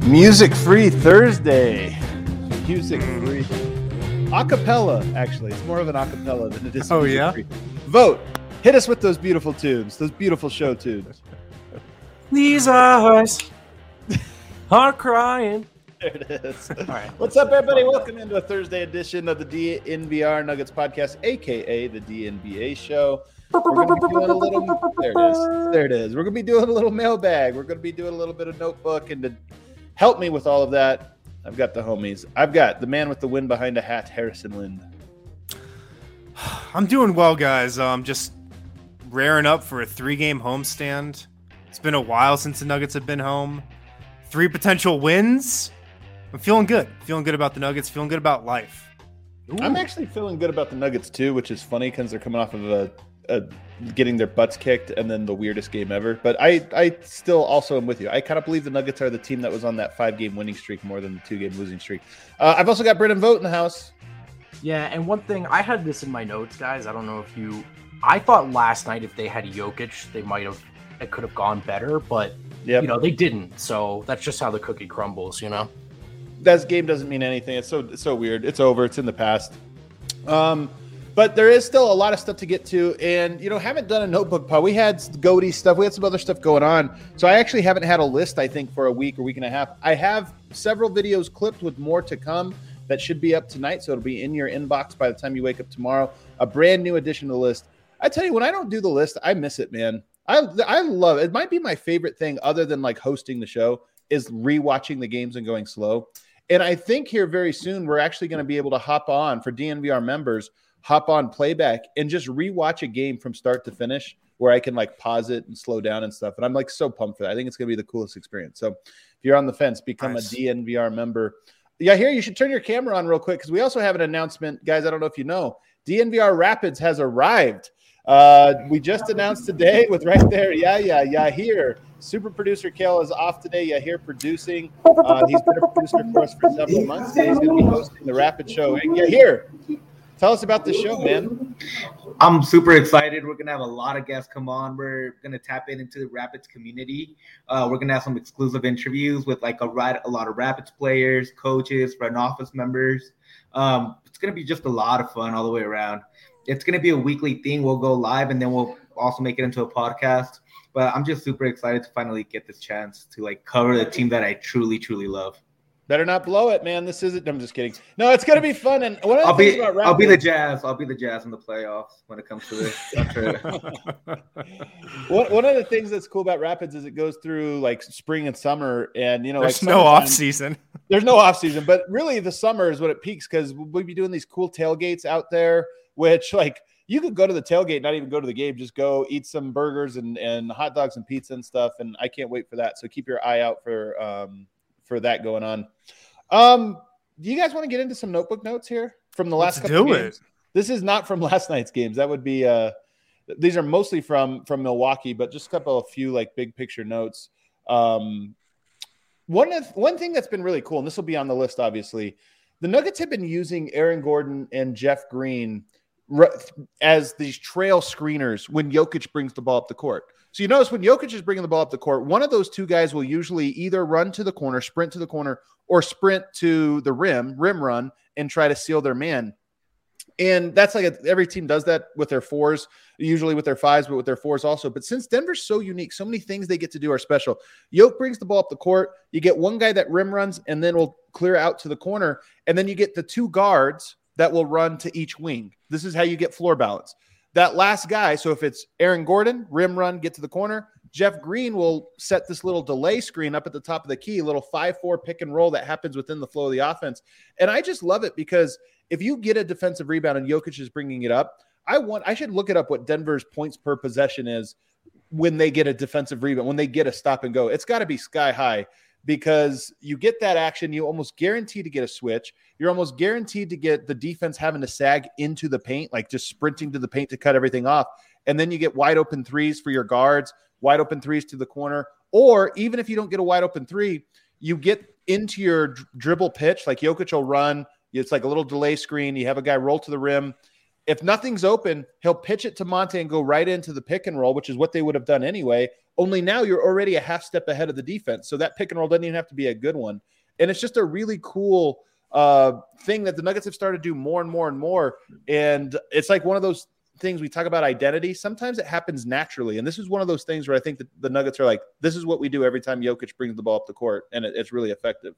Music Free Thursday. Music Free. Acapella, actually. It's more of an acapella than it is music free. Vote. Hit us with those beautiful tunes, those beautiful show tunes. These eyes are crying. There it is. All right. What's up, everybody? Welcome into a Thursday edition of the DNVR Nuggets podcast, a.k.a. the DNBA show. We're going to be doing a little... There it is. We're going to be doing a little mailbag. We're going to be doing a little bit of notebook. And to help me with all of that, I've got the homies. I've got the man with the wind behind a hat, Harrison Lind. I'm doing well, guys. Just raring up for a 3-game homestand. It's been a while since the Nuggets have been home. 3 potential wins. I'm feeling good. Feeling good about the Nuggets. Feeling good about life. Ooh. I'm actually feeling good about the Nuggets, too, which is funny because they're coming off of getting their butts kicked and then the weirdest game ever. But I still also am with you. I kind of believe the Nuggets are the team that was on that 5-game winning streak more than the 2-game losing streak. I've also got Brendan Vogt in the house. Yeah, and one thing, I had this in my notes, guys. I don't know if you... I thought last night if they had Jokic, it could have gone better, but, they didn't. So that's just how the cookie crumbles, That game doesn't mean anything. It's so weird. It's over. It's in the past. But there is still a lot of stuff to get to, and haven't done a notebook pod. We had Goaty stuff. We had some other stuff going on, so I actually haven't had a list. I think for a week or week and a half. I have several videos clipped with more to come that should be up tonight, so it'll be in your inbox by the time you wake up tomorrow. A brand new addition to the list. I tell you, when I don't do the list, I miss it, man. I love it. It might be my favorite thing, other than like hosting the show, is rewatching the games and going slow. And I think here very soon we're actually going to be able to hop on for DNVR members. Hop on playback and just rewatch a game from start to finish where I can like pause it and slow down and stuff. And I'm like so pumped for that. I think it's going to be the coolest experience. So if you're on the fence, become a DNVR member. Yeah, here you should turn your camera on real quick because we also have an announcement. Guys, I don't know if you know, DNVR Rapids has arrived. We just announced today with right there. Yahir. Super producer Kale is off today. Yahir producing. He's been a producer for us for several months. He's going to be hosting the Rapid show. And Yahir, tell us about the show, man. I'm super excited. We're going to have a lot of guests come on. We're going to tap into the Rapids community. We're going to have some exclusive interviews with like a lot of Rapids players, coaches, front office members. It's going to be just a lot of fun all the way around. It's going to be a weekly thing. We'll go live and then we'll also make it into a podcast. But I'm just super excited to finally get this chance to like cover the team that I truly, truly love. Better not blow it, man. This isn't. I'm just kidding. No, it's gonna be fun. And one of the things about Raptors, I'll be the Jazz. I'll be the Jazz in the playoffs when it comes to this. One of the things that's cool about Rapids is it goes through like spring and summer, and there's no off season. There's no off season, but really the summer is when it peaks because we'll be doing these cool tailgates out there, which like you could go to the tailgate, not even go to the game, just go eat some burgers and hot dogs and pizza and stuff. And I can't wait for that. So keep your eye out for that going on. Do you guys want to get into some notebook notes here from the last couple of games? This is not from last night's games. That would be these are mostly from Milwaukee, but just a few like big picture notes. One thing that's been really cool, and this will be on the list, obviously, the Nuggets have been using Aaron Gordon and Jeff Green as these trail screeners when Jokic brings the ball up the court. So you notice when Jokic is bringing the ball up the court, one of those two guys will usually either run to the corner, sprint to the corner, or sprint to the rim run, and try to seal their man. And that's like every team does that with their fours, usually with their fives, but with their fours also. But since Denver's so unique, so many things they get to do are special. Jokic brings the ball up the court. You get one guy that rim runs and then will clear out to the corner. And then you get the 2 guards that will run to each wing. This is how you get floor balance. That last guy, so if it's Aaron Gordon, rim run, get to the corner, Jeff Green will set this little delay screen up at the top of the key, little 5-4 pick and roll that happens within the flow of the offense. And I just love it because if you get a defensive rebound and Jokic is bringing it up, I should look it up what Denver's points per possession is when they get a defensive rebound, when they get a stop and go. It's got to be sky high because you get that action, you almost guarantee to get a switch. You're almost guaranteed to get the defense having to sag into the paint, like just sprinting to the paint to cut everything off. And then you get wide open threes for your guards, wide open threes to the corner. Or even if you don't get a wide open three, you get into your dribble pitch, like Jokic will run. It's like a little delay screen. You have a guy roll to the rim. If nothing's open, he'll pitch it to Monte and go right into the pick and roll, which is what they would have done anyway. Only now you're already a half step ahead of the defense. So that pick and roll doesn't even have to be a good one. And it's just a really cool thing that the Nuggets have started to do more and more and more. And it's like one of those things we talk about identity. Sometimes it happens naturally. And this is one of those things where I think that the Nuggets are like, this is what we do every time Jokic brings the ball up the court. And it's really effective.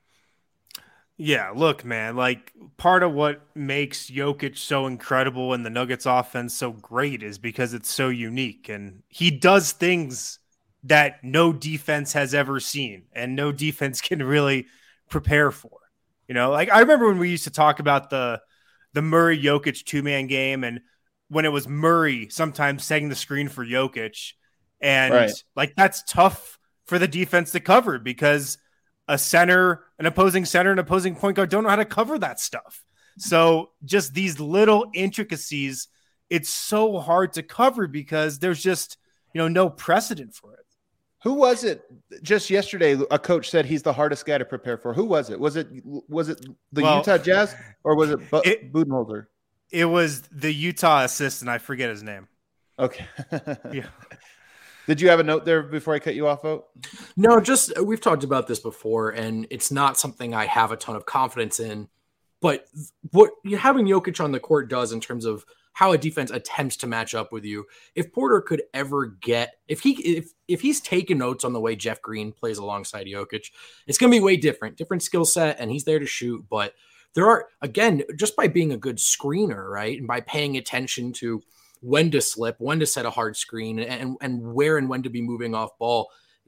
Yeah, look, man, like part of what makes Jokic so incredible and the Nuggets offense so great is because it's so unique, and he does things that no defense has ever seen and no defense can really prepare for. You know, like I remember when we used to talk about the Murray Jokic 2-man game, and when it was Murray sometimes setting the screen for Jokic, and like that's tough for the defense to cover because an opposing center, and opposing point guard don't know how to cover that stuff. So just these little intricacies, it's so hard to cover because there's just, no precedent for it. Who was it just yesterday? A coach said he's the hardest guy to prepare for. Who was it? Was it the Utah Jazz or was it Budenholzer? It was the Utah assistant. I forget his name. Okay. Yeah. Did you have a note there before I cut you off, Vogt? No, just we've talked about this before, and it's not something I have a ton of confidence in. But what having Jokic on the court does in terms of how a defense attempts to match up with you, if Porter could ever get if he's taken notes on the way Jeff Green plays alongside Jokic, it's going to be way different skill set, and he's there to shoot. But there are, again, just by being a good screener, right, and by paying attention to when to slip, when to set a hard screen, and where and when to be moving off ball,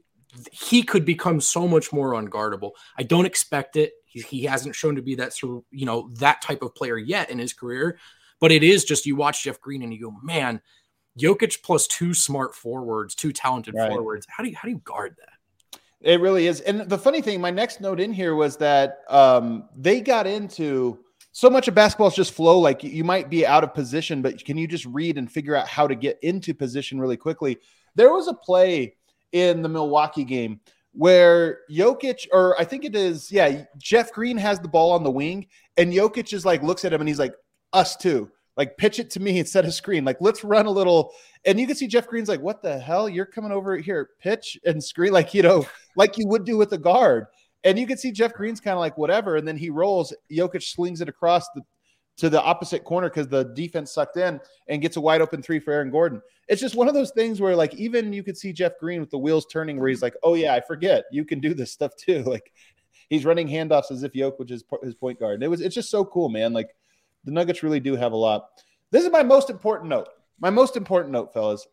he could become so much more unguardable. I don't expect it. He hasn't shown to be that sort of, that type of player yet in his career, but it is just, you watch Jeff Green and you go, man, Jokic plus two smart forwards, two talented forwards. How do you guard that? It really is. And the funny thing, my next note in here was that they got into so much of basketball is just flow. Like you might be out of position, but can you just read and figure out how to get into position really quickly? There was a play in the Milwaukee game where Jokic, or I think it is, Jeff Green has the ball on the wing and Jokic is like, looks at him and he's like, us too. Like pitch it to me instead of screen. Like let's run a little. And you can see Jeff Green's like, what the hell? You're coming over here, pitch and screen, like, like you would do with the guard. And you can see Jeff Green's kind of like whatever, and then he rolls. Jokic slings it across to the opposite corner because the defense sucked in and gets a wide open three for Aaron Gordon. It's just one of those things where like even you could see Jeff Green with the wheels turning where he's like, oh yeah, I forget. You can do this stuff too. Like he's running handoffs as if Jokic is his point guard. And it's just so cool, man. Like the Nuggets really do have a lot. This is my most important note. My most important note, fellas.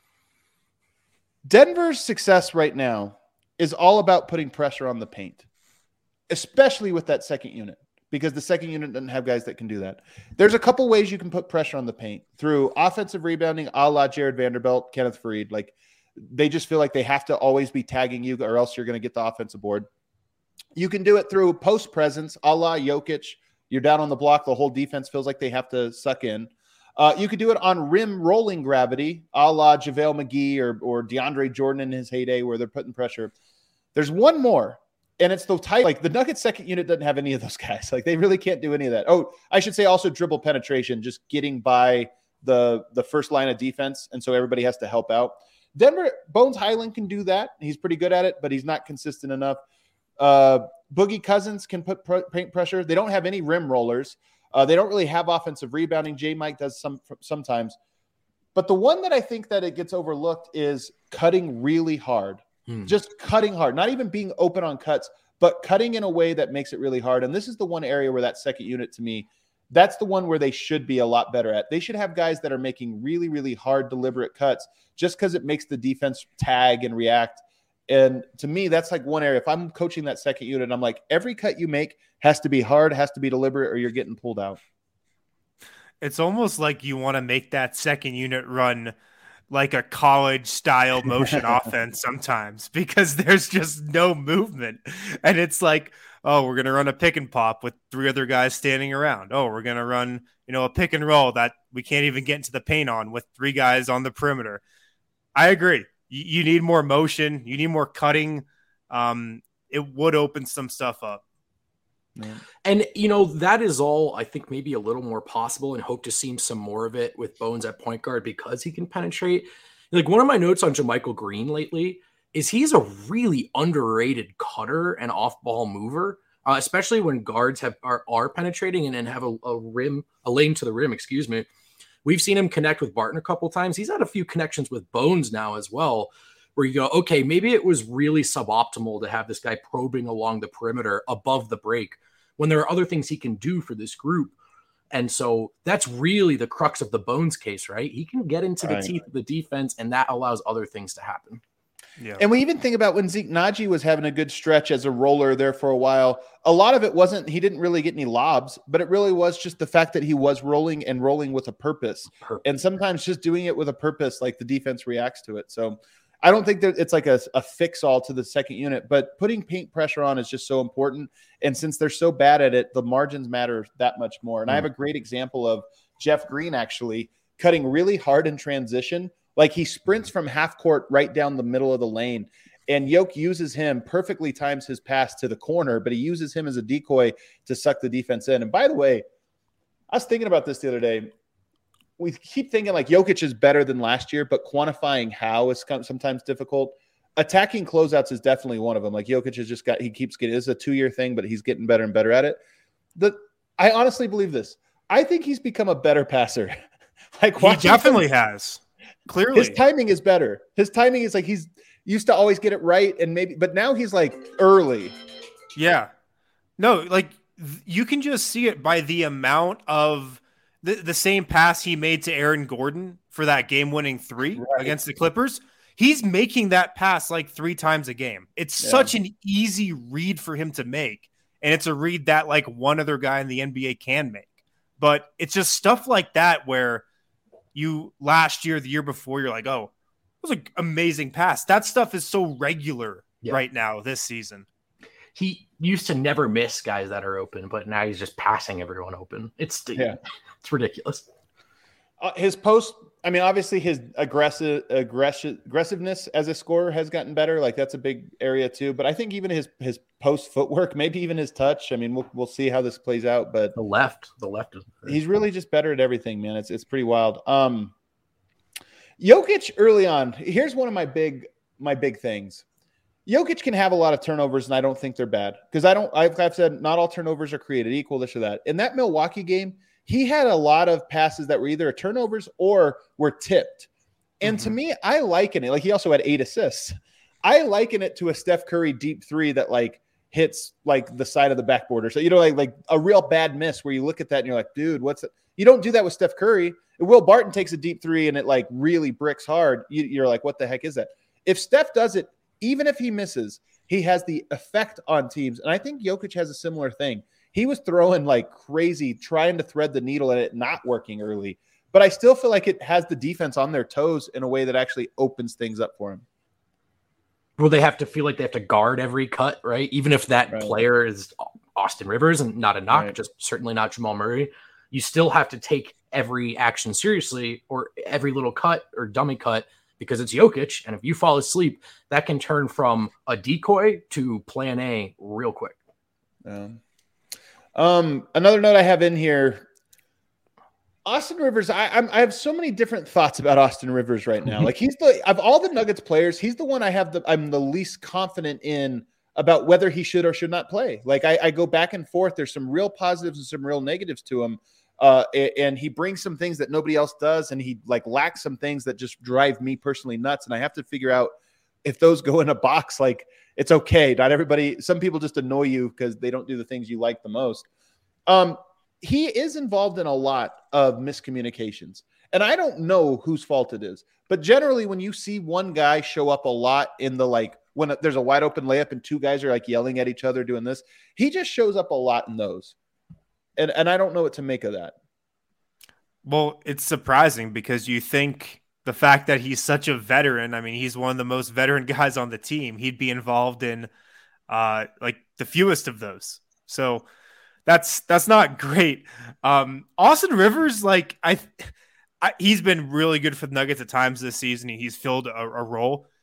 Denver's success right now is all about putting pressure on the paint, especially with that second unit, because the second unit doesn't have guys that can do that. There's a couple ways you can put pressure on the paint through offensive rebounding, a la Jared Vanderbilt, Kenneth Faried. Like they just feel like they have to always be tagging you or else you're going to get the offensive board. You can do it through post presence, a la Jokic. You're down on the block. The whole defense feels like they have to suck in. You could do it on rim rolling gravity, a la JaVale McGee or DeAndre Jordan in his heyday where they're putting pressure. There's one more, and it's the type, like the Nuggets second unit doesn't have any of those guys. Like they really can't do any of that. Oh, I should say also dribble penetration, just getting by the first line of defense. And so everybody has to help out. Denver, Bones Highland can do that. He's pretty good at it, but he's not consistent enough. Boogie Cousins can put paint pressure. They don't have any rim rollers. They don't really have offensive rebounding. J-Mike does sometimes. But the one that I think that it gets overlooked is cutting really hard. Just cutting hard. Not even being open on cuts, but cutting in a way that makes it really hard. And this is the one area where that second unit, to me, that's the one where they should be a lot better at. They should have guys that are making really, really hard, deliberate cuts just because it makes the defense tag and react. And to me, that's like one area. If I'm coaching that second unit, I'm like, every cut you make has to be hard, has to be deliberate, or you're getting pulled out. It's almost like you want to make that second unit run like a college style motion offense sometimes because there's just no movement. And it's like, oh, we're going to run a pick and pop with three other guys standing around. Oh, we're going to run, a pick and roll that we can't even get into the paint on with three guys on the perimeter. I agree. You need more motion. You need more cutting. It would open some stuff up. Yeah. And, that is all, I think, maybe a little more possible, and hope to see some more of it with Bones at point guard because he can penetrate. Like, one of my notes on JaMychal Green lately is he's a really underrated cutter and off-ball mover, especially when guards are penetrating and then have a lane to the rim, excuse me. We've seen him connect with Barton a couple times. He's had a few connections with Bones now as well, where you go, okay, maybe it was really suboptimal to have this guy probing along the perimeter above the break when there are other things he can do for this group. And so that's really the crux of the Bones case, right? He can get into the teeth of the defense, and that allows other things to happen. Yeah. And we even think about when Zeke Naji was having a good stretch as a roller there for a while. A lot of it wasn't, he didn't really get any lobs, but it really was just the fact that he was rolling with a purpose. And sometimes just doing it with a purpose, like the defense reacts to it. So I don't think that it's like a fix all to the second unit, but putting paint pressure on is just so important. And since they're so bad at it, the margins matter that much more. And I have a great example of Jeff Green actually cutting really hard in transition. Like he sprints from half court right down the middle of the lane, and Yoke uses him, perfectly times his pass to the corner, but he uses him as a decoy to suck the defense in. And by the way, I was thinking about this the other day. We keep thinking like Jokic is better than last year, but quantifying how is sometimes difficult. Attacking closeouts is definitely one of them. Like Jokic has just he keeps getting, it's a 2-year thing, but he's getting better and better at it. I honestly believe this. I think he's become a better passer. Like he definitely has. Clearly, his timing is better. His timing is like he's used to always get it right, but now he's like early. Yeah, no, like you can just see it by the amount of the same pass he made to Aaron Gordon for that game-winning 3 against the Clippers. He's making that pass like 3 times a game. It's such an easy read for him to make, and it's a read that like one other guy in the NBA can make. But it's just stuff like that where you last year, the year before, you're like, oh, it was an amazing pass. That stuff is so regular right now this season. He used to never miss guys that are open, but now he's just passing everyone open. It's ridiculous. His post, I mean, obviously his aggressiveness as a scorer has gotten better. Like that's a big area too. But I think even his post footwork, maybe even his touch. I mean, we'll see how this plays out. But the left is he's really just better at everything, man. It's pretty wild. Jokic early on. Here's one of my big things. Jokic can have a lot of turnovers, and I don't think they're bad because I've said not all turnovers are created equal. This or that. In that Milwaukee game, he had a lot of passes that were either turnovers or were tipped. And to me, I liken it. Like he also had 8 assists. I liken it to a Steph Curry deep 3 that like hits like the side of the backboard or so, like a real bad miss where you look at that and you're like, dude, what's it? You don't do that with Steph Curry. Will Barton takes a deep 3 and it like really bricks hard. You're like, what the heck is that? If Steph does it, even if he misses, he has the effect on teams. And I think Jokic has a similar thing. He was throwing like crazy, trying to thread the needle and it not working early. But I still feel like it has the defense on their toes in a way that actually opens things up for him. Well, they have to feel like they have to guard every cut, right? Even if that player is Austin Rivers and not a knock, just certainly not Jamal Murray. You still have to take every action seriously or every little cut or dummy cut because it's Jokic. And if you fall asleep, that can turn from a decoy to plan A real quick. Another note I have in here, Austin Rivers. I have so many different thoughts about Austin Rivers right now. Like he's of all the Nuggets players, he's the one I'm the least confident in about whether he should or should not play. Like I go back and forth. There's some real positives and some real negatives to him. And he brings some things that nobody else does. And he like lacks some things that just drive me personally nuts. And I have to figure out if those go in a box, like it's okay. Not everybody, some people just annoy you because they don't do the things you like the most. He is involved in a lot of miscommunications, and I don't know whose fault it is, but generally when you see one guy show up a lot in the, like when there's a wide open layup and 2 guys are like yelling at each other doing this, he just shows up a lot in those. And I don't know what to make of that. Well, it's surprising because you think the fact that he's such a veteran, I mean, he's one of the most veteran guys on the team. He'd be involved in like the fewest of those. So that's not great. Austin Rivers, like he's been really good for the Nuggets at times this season. He's filled a role.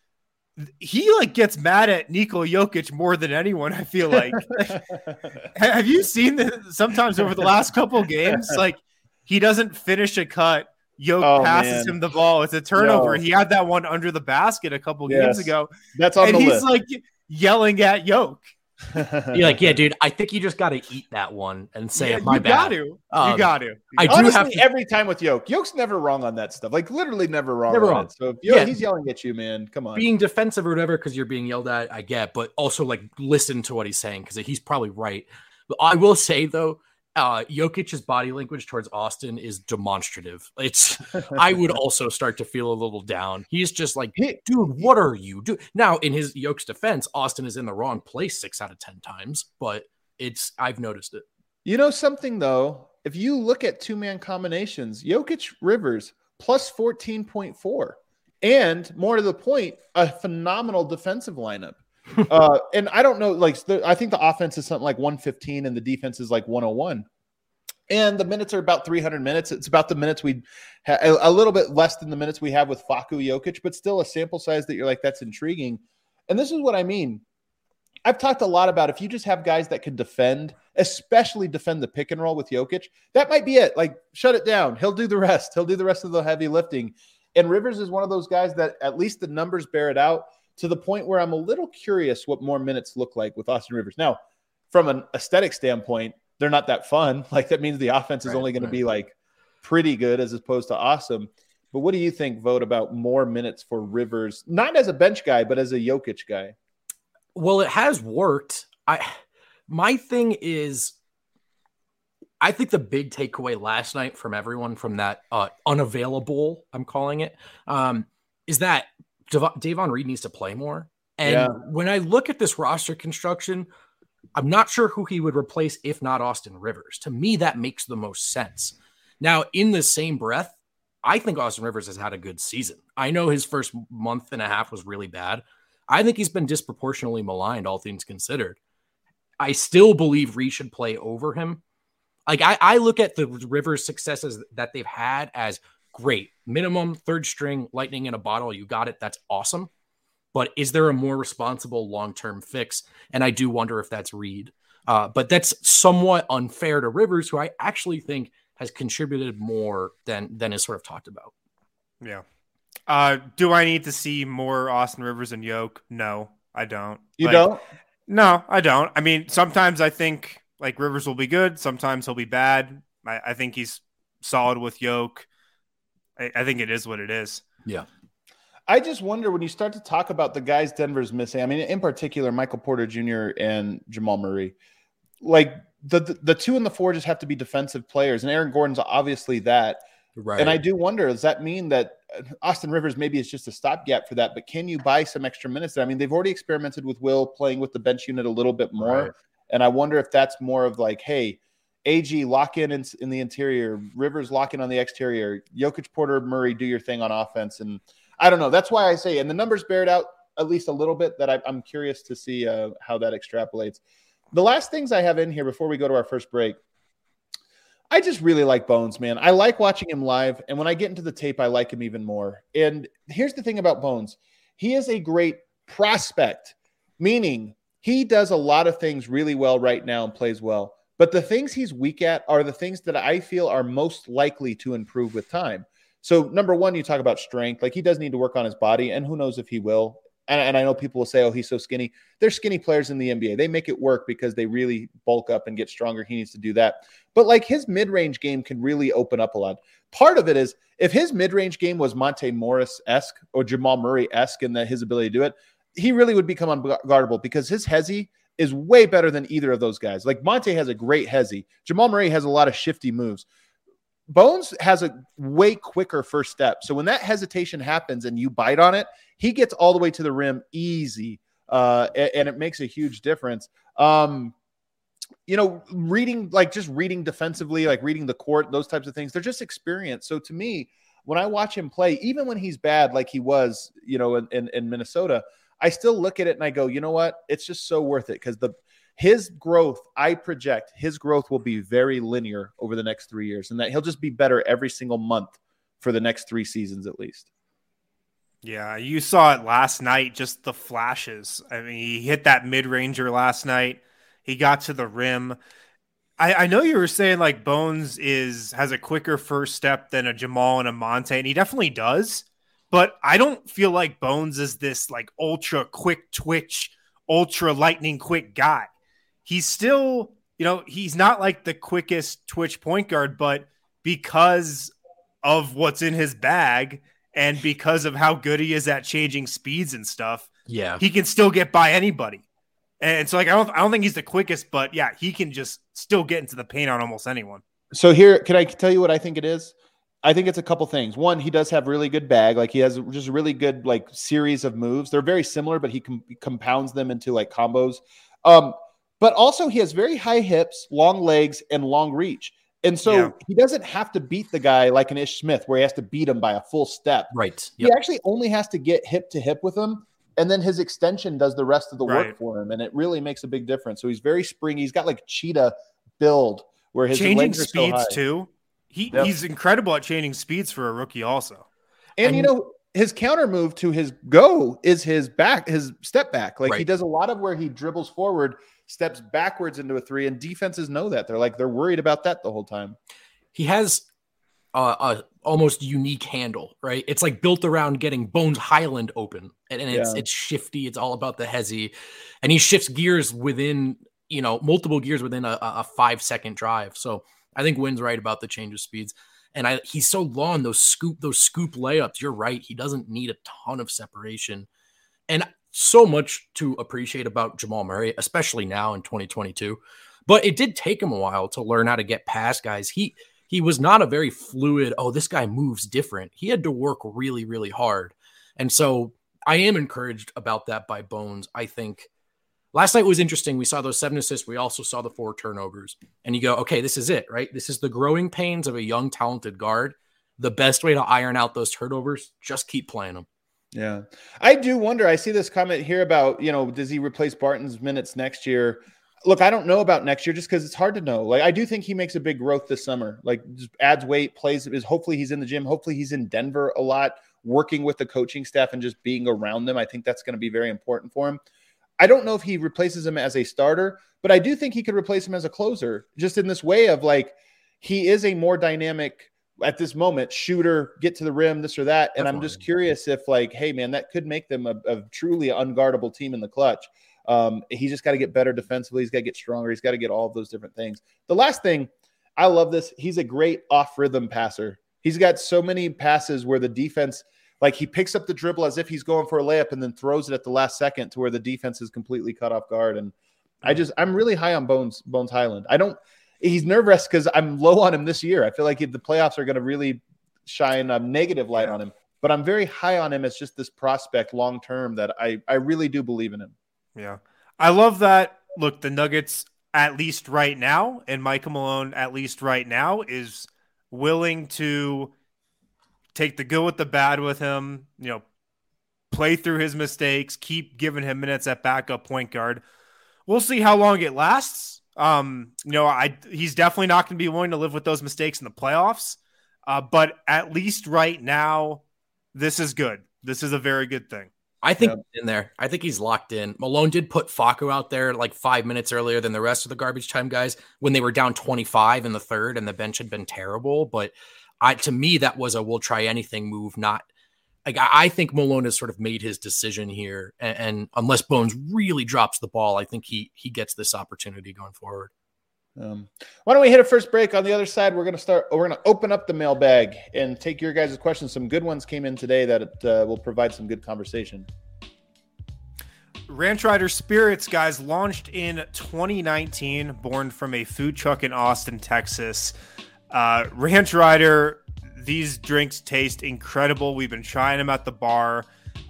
he like gets mad at Nikola Jokic more than anyone. I feel like. Have you seen that sometimes over the last couple of games? Like he doesn't finish a cut. Jokic passes him the ball. It's a turnover. He had that one under the basket a couple games ago. That's on the list. And he's like yelling at Jokic. You're like, yeah, dude, I think you just got to eat that one and say, my bad. You got to. I do Honestly, have to. Every time with Jokic's never wrong on that stuff. Like literally never wrong. Never wrong. It. So if he's yelling at you, man, come on. Being defensive or whatever because you're being yelled at, I get, but also like listen to what he's saying because he's probably right. But I will say though, Jokic's body language towards Austin is demonstrative. I would also start to feel a little down. He's just like, dude, what are you doing? Now, in his Jokic's defense, Austin is in the wrong place 6 out of 10 times, but I've noticed it. You know something though, if you look at 2-man combinations, Jokic Rivers plus 14.4, and more to the point, a phenomenal defensive lineup. And I don't know, like I think the offense is something like 115 and the defense is like 101. And the minutes are about 300 minutes. It's about the minutes we a little bit less than the minutes we have with Facu Jokic, but still a sample size that you're like, that's intriguing. And this is what I mean. I've talked a lot about if you just have guys that can defend, especially defend the pick and roll with Jokic, that might be it. Like shut it down. He'll do the rest. He'll do the rest of the heavy lifting. And Rivers is one of those guys that at least the numbers bear it out. To the point where I'm a little curious what more minutes look like with Austin Rivers. Now, from an aesthetic standpoint, they're not that fun. Like that means the offense is only going to be like pretty good as opposed to awesome. But what do you think, Vogt, about more minutes for Rivers, not as a bench guy, but as a Jokic guy? Well, it has worked. My thing is, I think the big takeaway last night from everyone from that unavailable, I'm calling it, is that Davon Reed needs to play more. And when I look at this roster construction, I'm not sure who he would replace if not Austin Rivers. To me, that makes the most sense. Now, in the same breath, I think Austin Rivers has had a good season. I know his first month and a half was really bad. I think he's been disproportionately maligned, all things considered. I still believe Reed should play over him. Like I look at the Rivers successes that they've had as great. Minimum third string, lightning in a bottle. You got it. That's awesome. But is there a more responsible long-term fix? And I do wonder if that's Reed. But that's somewhat unfair to Rivers, who I actually think has contributed more than is sort of talked about. Yeah. Do I need to see more Austin Rivers and Yoke? No, I don't. You don't? No, I don't. I mean, sometimes I think like Rivers will be good. Sometimes he'll be bad. I think he's solid with Yoke. I think it is what it is. Yeah. I just wonder when you start to talk about the guys Denver's missing. I mean, in particular, Michael Porter Jr. and Jamal Murray. Like the 2 and the 4 just have to be defensive players, and Aaron Gordon's obviously that. Right. And I do wonder, does that mean that Austin Rivers maybe is just a stopgap for that? But can you buy some extra minutes there? I mean, they've already experimented with Will playing with the bench unit a little bit more, right. And I wonder if that's more of like, hey, AG lock in the interior, Rivers lock in on the exterior, Jokic, Porter, Murray, do your thing on offense. And I don't know. That's why I say, and the numbers bear it out at least a little bit, that I'm curious to see how that extrapolates. The last things I have in here before we go to our first break, I just really like Bones, man. I like watching him live, and when I get into the tape, I like him even more. And here's the thing about Bones. He is a great prospect, meaning he does a lot of things really well right now and plays well. But the things he's weak at are the things that I feel are most likely to improve with time. So number one, you talk about strength. Like he does need to work on his body, and who knows if he will. And I know people will say, oh, he's so skinny. There's skinny players in the NBA. They make it work because they really bulk up and get stronger. He needs to do that. But like his mid-range game can really open up a lot. Part of it is if his mid-range game was Monte Morris-esque or Jamal Murray-esque in his ability to do it, he really would become unguardable because his hezzy is way better than either of those guys. Like Monte has a great hezzy. Jamal Murray has a lot of shifty moves. Bones has a way quicker first step. So when that hesitation happens and you bite on it, he gets all the way to the rim easy. And it makes a huge difference. Reading defensively, like reading the court, those types of things, they're just experience. So to me, when I watch him play, even when he's bad, like he was, in Minnesota, I still look at it and I go, you know what? It's just so worth it because his growth, I project his growth will be very linear over the next 3 years and that he'll just be better every single month for the next 3 seasons at least. Yeah, you saw it last night, just the flashes. I mean, he hit that mid-ranger last night. He got to the rim. I know you were saying like Bones has a quicker first step than a Jamal and a Monte, and he definitely does. But I don't feel like Bones is this like ultra quick twitch, ultra lightning quick guy. He's still, he's not like the quickest twitch point guard, but because of what's in his bag and because of how good he is at changing speeds and stuff, he can still get by anybody. And so, like, I don't think he's the quickest, but yeah, he can just still get into the paint on almost anyone. So here, can I tell you what I think it is? I think it's a couple things. One, he does have really good bag. Like, he has just a really good, like, series of moves. They're very similar, but he compounds them into, like, combos. But also he has very high hips, long legs, and long reach. And so he doesn't have to beat the guy like an Ish Smith where he has to beat him by a full step. Right. Yep. He actually only has to get hip to hip with him. And then his extension does the rest of the work for him. And it really makes a big difference. So he's very springy. He's got like cheetah build where his changing legs are speeds so too. He's incredible at changing speeds for a rookie also. And his counter move to his go is his step back. Like he does a lot of where he dribbles forward, steps backwards into a three, and defenses know that. They're worried about that the whole time. He has a almost unique handle, right? It's like built around getting Bones Highland open, and it's shifty. It's all about the hezzy, and he shifts gears within, multiple gears within a 5-second drive. So I think Wynn's right about the change of speeds. And he's so long, those scoop layups. You're right. He doesn't need a ton of separation, and so much to appreciate about Jamal Murray, especially now in 2022. But it did take him a while to learn how to get past guys. He was not a very fluid, this guy moves different. He had to work really, really hard. And so I am encouraged about that by Bones. I think last night was interesting. We saw those 7 assists. We also saw the 4 turnovers. And you go, okay, this is it, right? This is the growing pains of a young, talented guard. The best way to iron out those turnovers, just keep playing them. Yeah. I do wonder. I see this comment here about, does he replace Barton's minutes next year? Look, I don't know about next year just because it's hard to know. Like, I do think he makes a big growth this summer. Like, just adds weight, hopefully he's in the gym. Hopefully he's in Denver a lot, working with the coaching staff and just being around them. I think that's going to be very important for him. I don't know if he replaces him as a starter, but I do think he could replace him as a closer, just in this way of like, he is a more dynamic at this moment shooter, get to the rim, this or that. And I'm just curious if like, hey man, that could make them a truly unguardable team in the clutch. He's just got to get better defensively. He's got to get stronger. He's got to get all of those different things. The last thing, I love this. He's a great off-rhythm passer. He's got so many passes where the defense, like he picks up the dribble as if he's going for a layup and then throws it at the last second to where the defense is completely cut off guard. And I'm really high on Bones Highland. He's nervous because I'm low on him this year. I feel like the playoffs are going to really shine a negative light on him, but I'm very high on him as just this prospect long-term that I really do believe in him. Yeah. I love that. Look, the Nuggets, at least right now, and Michael Malone, at least right now, is willing to take the good with the bad with him, play through his mistakes, keep giving him minutes at backup point guard. We'll see how long it lasts. He's definitely not going to be willing to live with those mistakes in the playoffs. But at least right now, this is good. This is a very good thing. I think in there. I think he's locked in. Malone did put Facu out there like 5 minutes earlier than the rest of the garbage time guys when they were down 25 in the third and the bench had been terrible. But to me, that was a we'll try anything move. Not like I think Malone has sort of made his decision here. And unless Bones really drops the ball, I think he gets this opportunity going forward. Why don't we hit a first break? On the other side, we're going to open up the mailbag and take your guys' questions. Some good ones came in today that will provide some good conversation. Ranch Rider Spirits, guys, launched in 2019, born from a food truck in Austin, Texas. Ranch Rider, these drinks taste incredible. We've been trying them at the bar.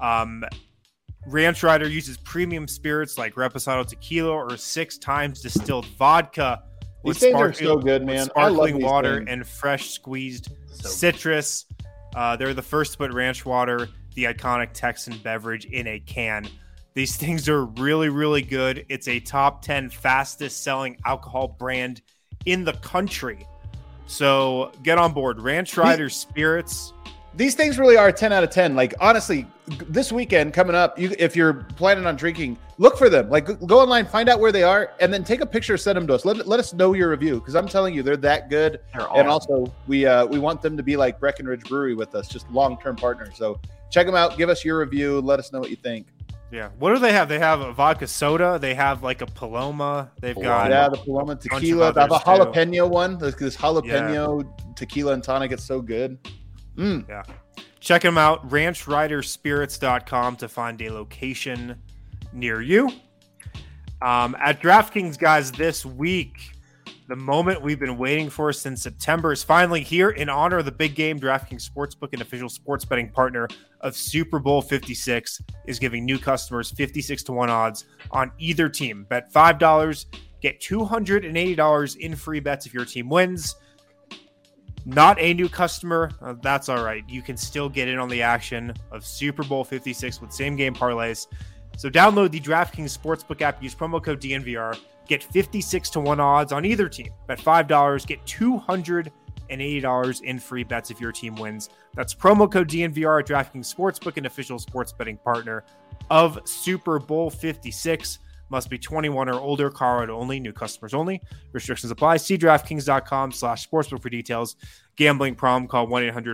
Ranch Rider uses premium spirits like Reposado tequila or 6 times distilled vodka. These things are so good, man. Sparkling water and fresh squeezed citrus. They're the first to put ranch water, the iconic Texan beverage, in a can. These things are really, really good. It's a top 10 fastest selling alcohol brand in the country. So get on board. Ranch Rider Spirits. these things really are 10 out of 10. Like, honestly, this weekend coming up, if you're planning on drinking, look for them. Like, go online, find out where they are, and then take a picture, send them to us. Let us know your review, because I'm telling you, they're that good. They're and awesome. also, we want them to be like Breckenridge Brewery with us, just long-term partners. So check them out. Give us your review. Let us know what you think. Yeah. What do they have? They have a vodka soda. They have like a Paloma. They've got the Paloma tequila. They have a jalapeno one. This jalapeno tequila and tonic. It's so good. Yeah. Check them out. RanchRiderSpirits.com to find a location near you. At DraftKings, guys, this week, the moment we've been waiting for since September is finally here. In honor of the big game, DraftKings Sportsbook, an official sports betting partner of Super Bowl 56, is giving new customers 56-1 odds on either team. Bet $5, get $280 in free bets if your team wins. Not a new customer, that's all right. You can still get in on the action of Super Bowl 56 with same-game parlays. So download the DraftKings Sportsbook app, use promo code DNVR, get 56-1 odds on either team. Bet $5, get $280 in free bets if your team wins. That's promo code DNVR at DraftKings Sportsbook, an official sports betting partner of Super Bowl 56. Must be 21 or older, Colorado only, new customers only. Restrictions apply. See DraftKings.com/sportsbook for details. Gambling problem, call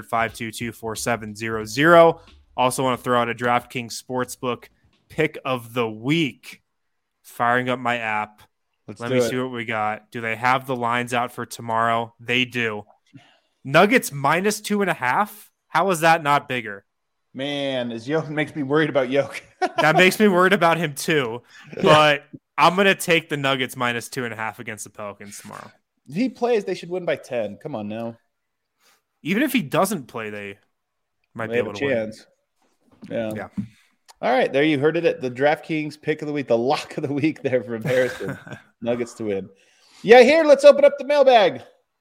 1-800-522-4700. Also want to throw out a DraftKings Sportsbook pick of the week. Firing up my app. Let me see what we got. Do they have the lines out for tomorrow? They do. Nuggets -2.5. How is that not bigger? Man, Yoke makes me worried about Yoke. That makes me worried about him too. But I'm going to take the Nuggets -2.5 against the Pelicans tomorrow. If he plays, they should win by 10. Come on now. Even if he doesn't play, they might be able to chance. Win. Yeah. All right, there you heard it at the DraftKings pick of the week, the lock of the week there from Harrison. Nuggets to win. Yeah, here, let's open up the mailbag.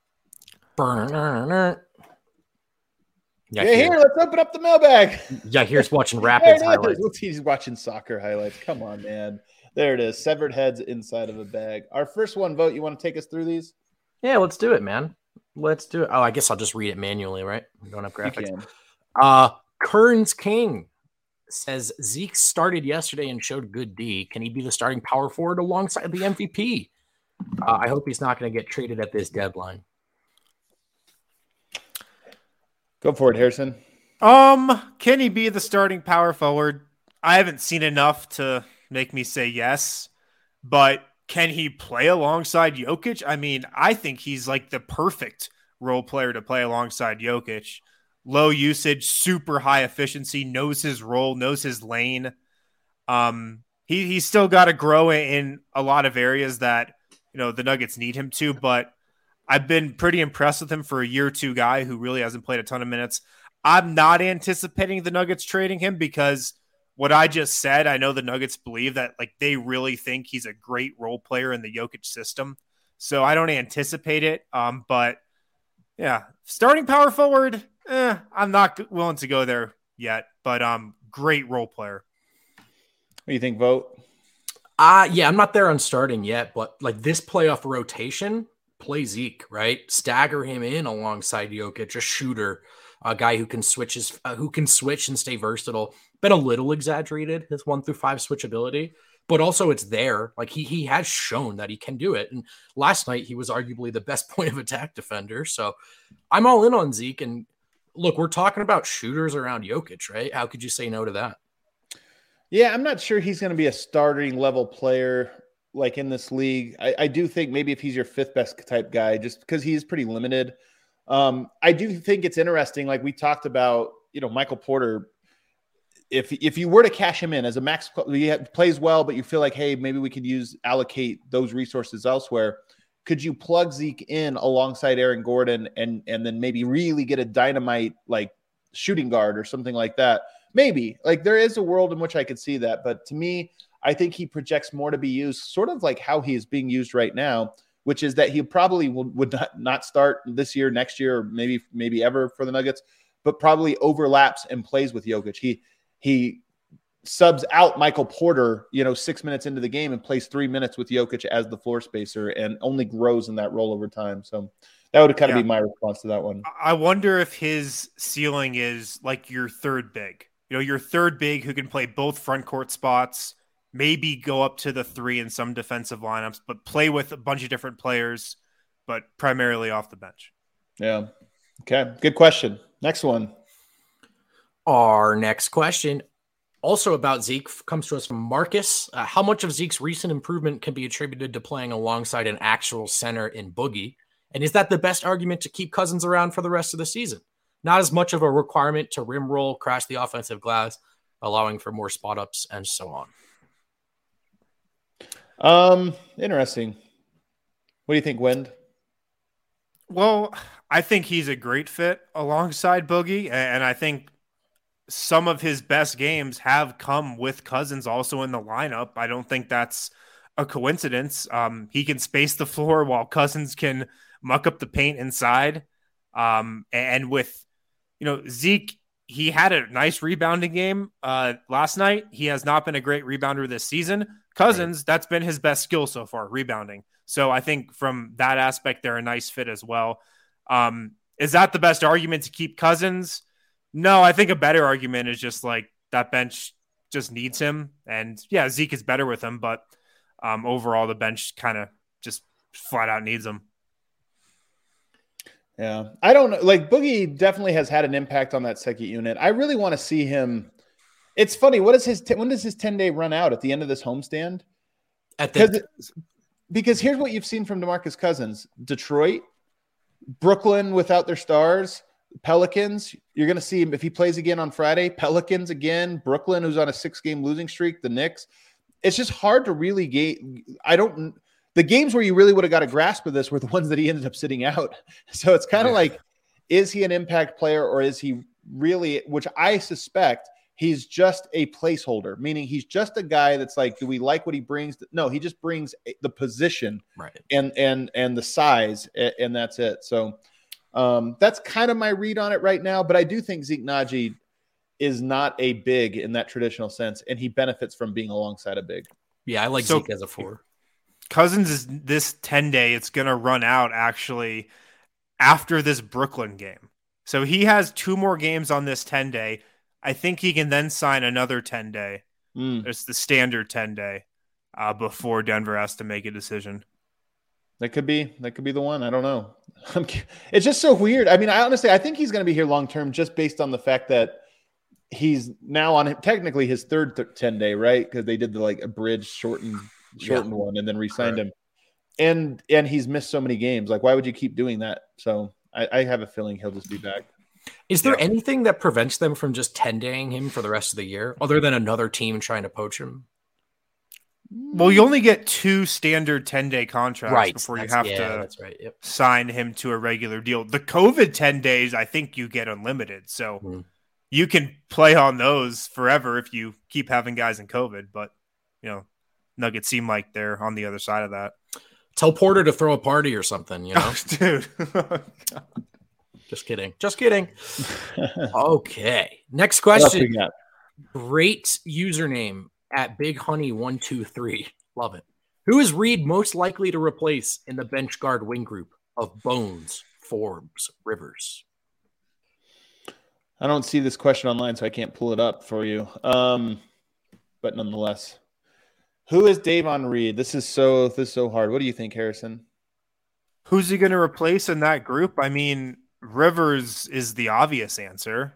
Let's open up the mailbag. Yeah, here's watching Rapids highlights. He's watching soccer highlights. Come on, man. There it is. Severed heads inside of a bag. Our first one, Vote. You want to take us through these? Yeah, let's do it, man. Let's do it. Oh, I guess I'll just read it manually, right? We don't have graphics. Kearns King says Zeke started yesterday and showed good D. Can he be the starting power forward alongside the MVP? I hope he's not going to get traded at this deadline. Go for it, Harrison. Can he be the starting power forward? I haven't seen enough to make me say yes, but can he play alongside Jokic? I mean, I think he's like the perfect role player to play alongside Jokic. Low usage, super high efficiency, knows his role, knows his lane. He's still got to grow in a lot of areas that, the Nuggets need him to, but I've been pretty impressed with him for a year or two guy who really hasn't played a ton of minutes. I'm not anticipating the Nuggets trading him because what I just said, I know the Nuggets believe that they really think he's a great role player in the Jokic system. So I don't anticipate it. But yeah, starting power forward, I'm not willing to go there yet, but great role player. What do you think, Vote? Yeah, I'm not there on starting yet, but this playoff rotation, play Zeke, right? Stagger him in alongside Jokic, a shooter, a guy who can switch and stay versatile. Been a little exaggerated, his 1 through 5 switchability, but also it's there. He has shown that he can do it. And last night he was arguably the best point of attack defender. So I'm all in on Zeke. And look, we're talking about shooters around Jokic, right? How could you say no to that? Yeah, I'm not sure he's going to be a starting level player in this league. I do think maybe if he's your 5th best type guy, just because he's pretty limited. I do think it's interesting. Like we talked about, Michael Porter, if you were to cash him in as a max, he plays well, but you feel like, hey, maybe we could allocate those resources elsewhere. Could you plug Zeke in alongside Aaron Gordon and then maybe really get a dynamite shooting guard or something like that? Maybe there is a world in which I could see that. But to me, I think he projects more to be used sort of like how he is being used right now, which is that he probably would not start this year, next year, or maybe ever for the Nuggets, but probably overlaps and plays with Jokic. He subs out Michael Porter, 6 minutes into the game and plays 3 minutes with Jokic as the floor spacer and only grows in that role over time. So That would kind of be my response to that one. I wonder if his ceiling is like your third big. Your third big who can play both front court spots, maybe go up to the 3 in some defensive lineups, but play with a bunch of different players, but primarily off the bench. Yeah. Okay. Good question. Next one. Our next question, also about Zeke, comes to us from Marcus. How much of Zeke's recent improvement can be attributed to playing alongside an actual center in Boogie? And is that the best argument to keep Cousins around for the rest of the season? Not as much of a requirement to rim roll, crash the offensive glass, allowing for more spot ups and so on. Interesting. What do you think, Wind? Well, I think he's a great fit alongside Boogie, and I think some of his best games have come with Cousins also in the lineup. I don't think that's a coincidence. He can space the floor while Cousins can muck up the paint inside. And with, Zeke, he had a nice rebounding game last night. He has not been a great rebounder this season. Cousins, that's been his best skill so far, rebounding. So I think from that aspect, they're a nice fit as well. Is that the best argument to keep Cousins? No, I think a better argument is just like that bench just needs him. And yeah, Zeke is better with him, but overall the bench kind of just flat out needs him. Yeah. I don't know. Like Boogie definitely has had an impact on that second unit. I really want to see him. It's funny. When does his 10-day run out at the end of this homestand? Because here's what you've seen from DeMarcus Cousins: Detroit, Brooklyn without their stars, Pelicans. You're going to see him if he plays again on Friday. Pelicans again, Brooklyn, who's on a 6-game losing streak, the Knicks. It's just hard to really the games where you really would have got a grasp of this were the ones that he ended up sitting out. So it's kind of like, is he an impact player or is he really, which I suspect he's just a placeholder, meaning he's just a guy that's like, do we like what he brings? No, he just brings the position and the size, and that's it. So that's kind of my read on it right now. But I do think Zeke Nnaji is not a big in that traditional sense, and he benefits from being alongside a big. Yeah, I like Zeke as a 4. Cousins is this 10-day. It's going to run out actually after this Brooklyn game. So he has 2 more games on this 10-day. I think he can then sign another 10-day. It's the standard 10-day before Denver has to make a decision. That could be the one. I don't know. It's just so weird. I mean, I think he's going to be here long-term just based on the fact that he's now on technically his third 10-day, right? Because they did the like abridged shortened one and then re-signed him. And he's missed so many games. Like, why would you keep doing that? So I have a feeling he'll just be back. Is there anything that prevents them from just 10-daying him for the rest of the year other than another team trying to poach him? Well, you only get 2 standard 10-day contracts before you have to sign him to a regular deal. The COVID 10 days, I think you get unlimited. So you can play on those forever if you keep having guys in COVID. But, Nuggets seem like they're on the other side of that. Tell Porter to throw a party or something, Dude. Just kidding. Okay. Next question. Great username at BigHoney123. Love it. Who is Reed most likely to replace in the bench guard wing group of Bones, Forbes, Rivers? I don't see this question online, so I can't pull it up for you. But nonetheless, who is Davon Reed? This is so hard. What do you think, Harrison? Who's he going to replace in that group? I mean, Rivers is the obvious answer.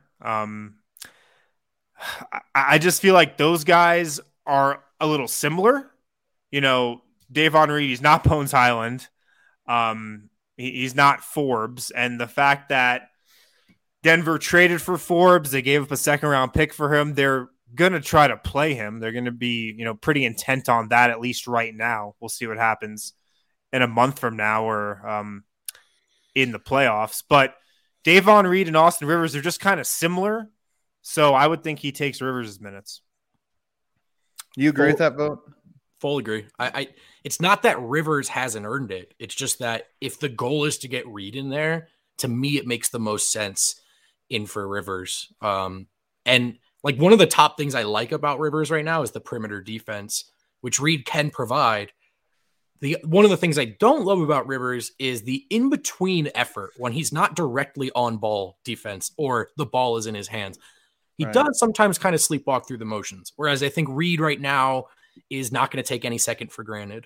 I just feel like those guys are a little similar. Davon Reed, he's not Bones Hyland. He's not Forbes. And the fact that Denver traded for Forbes, they gave up a 2nd-round pick for him. They're going to try to play him. They're going to be, pretty intent on that, at least right now. We'll see what happens in a month from now or in the playoffs. But Davon Reed and Austin Rivers are just kind of similar. So I would think he takes Rivers' minutes. You agree with that vote? Full agree. It's not that Rivers hasn't earned it. It's just that if the goal is to get Reed in there, to me, it makes the most sense in for Rivers. And like one of the top things I like about Rivers right now is the perimeter defense, which Reed can provide. one of the things I don't love about Rivers is the in-between effort when he's not directly on ball defense or the ball is in his hands. He does sometimes kind of sleepwalk through the motions, whereas I think Reed right now is not going to take any second for granted.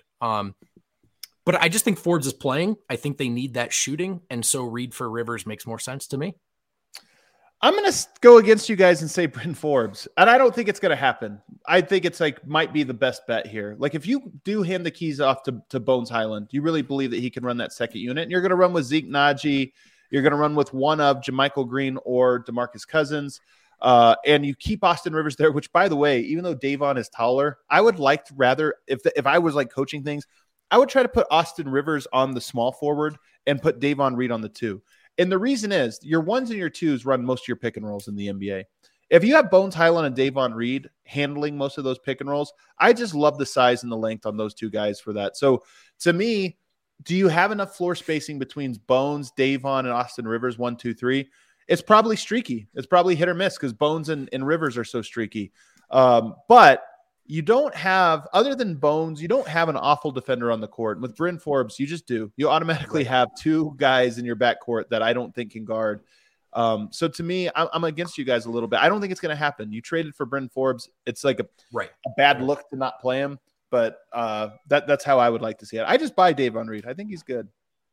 But I just think Forbes is playing. I think they need that shooting, and so Reed for Rivers makes more sense to me. I'm going to go against you guys and say Bryn Forbes, and I don't think it's going to happen. I think it's like might be the best bet here. Like if you do hand the keys off to Bones Hyland, you really believe that he can run that second unit, and you're going to run with Zeke Naji, you're going to run with one of JaMychal Green or DeMarcus Cousins, and you keep Austin Rivers there, which, by the way, even though Davon is taller, I would like to rather, if I was like coaching things, I would try to put Austin Rivers on the small forward and put Davon Reed on the 2. And the reason is your 1s and your 2s run most of your pick and rolls in the NBA. If you have Bones Hyland and Davon Reed handling most of those pick and rolls, I just love the size and the length on those two guys for that. So to me, do you have enough floor spacing between Bones, Davon, and Austin Rivers, 1, 2, 3? It's probably streaky. It's probably hit or miss because Bones and Rivers are so streaky. But you don't have, other than Bones, you don't have an awful defender on the court. With Bryn Forbes, you just do. You automatically have two guys in your backcourt that I don't think can guard. So to me, I'm against you guys a little bit. I don't think it's going to happen. You traded for Bryn Forbes. It's like a bad look to not play him, but that's how I would like to see it. I just buy Davon Reed. I think he's good.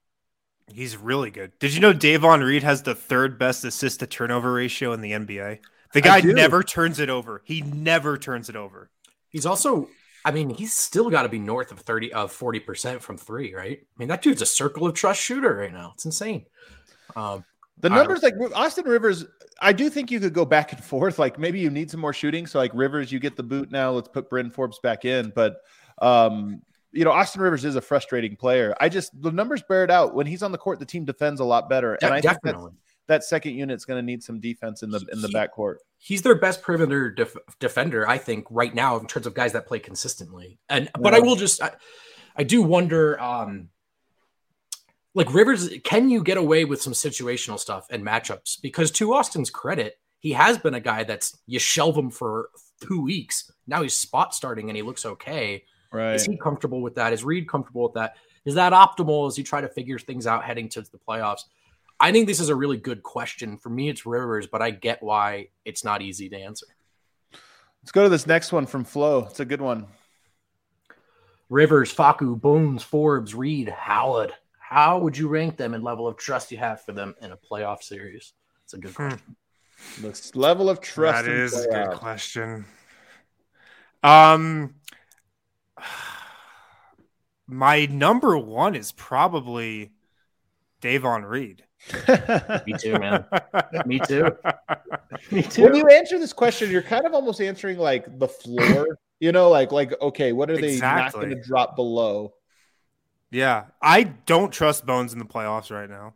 He's really good. Did you know Davon Reed has the 3rd best assist to turnover ratio in the NBA? The guy never turns it over. He never turns it over. He's also, I mean, he's still got to be north of 40% from 3, right? I mean, that dude's a circle of trust shooter right now. It's insane. The numbers, like Austin Rivers, I do think you could go back and forth. Like maybe you need some more shooting. So like Rivers, you get the boot now. Let's put Bryn Forbes back in. But, Austin Rivers is a frustrating player. The numbers bear it out. When he's on the court, the team defends a lot better. And I think that second unit's going to need some defense in the backcourt. He's their best perimeter defender, I think, right now in terms of guys that play consistently. But I will I do wonder, like Rivers, can you get away with some situational stuff and matchups? Because to Austin's credit, he has been a guy that's you shelve him for 2 weeks. Now he's spot starting and he looks okay. Right? Is he comfortable with that? Is Reed comfortable with that? Is that optimal as you try to figure things out heading to the playoffs? I think this is a really good question. For me, it's Rivers, but I get why it's not easy to answer. Let's go to this next one from Flo. It's a good one. Rivers, Facu, Bones, Forbes, Reed, Howard. How would you rank them in level of trust you have for them in a playoff series? It's a good question. The level of trust. That is a good question. My number 1 is probably Davon Reed. Me too, man. Me too. When you answer this question, you're kind of almost answering like the floor, like, okay, what are they not going to drop below? Yeah. I don't trust Bones in the playoffs right now.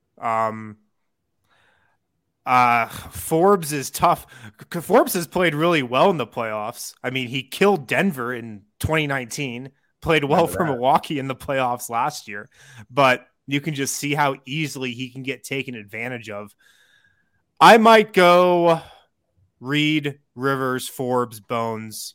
Forbes is tough. Forbes has played really well in the playoffs. I mean, he killed Denver in 2019, played well for Milwaukee in the playoffs last year, but you can just see how easily he can get taken advantage of. I might go Reed, Rivers, Forbes, Bones,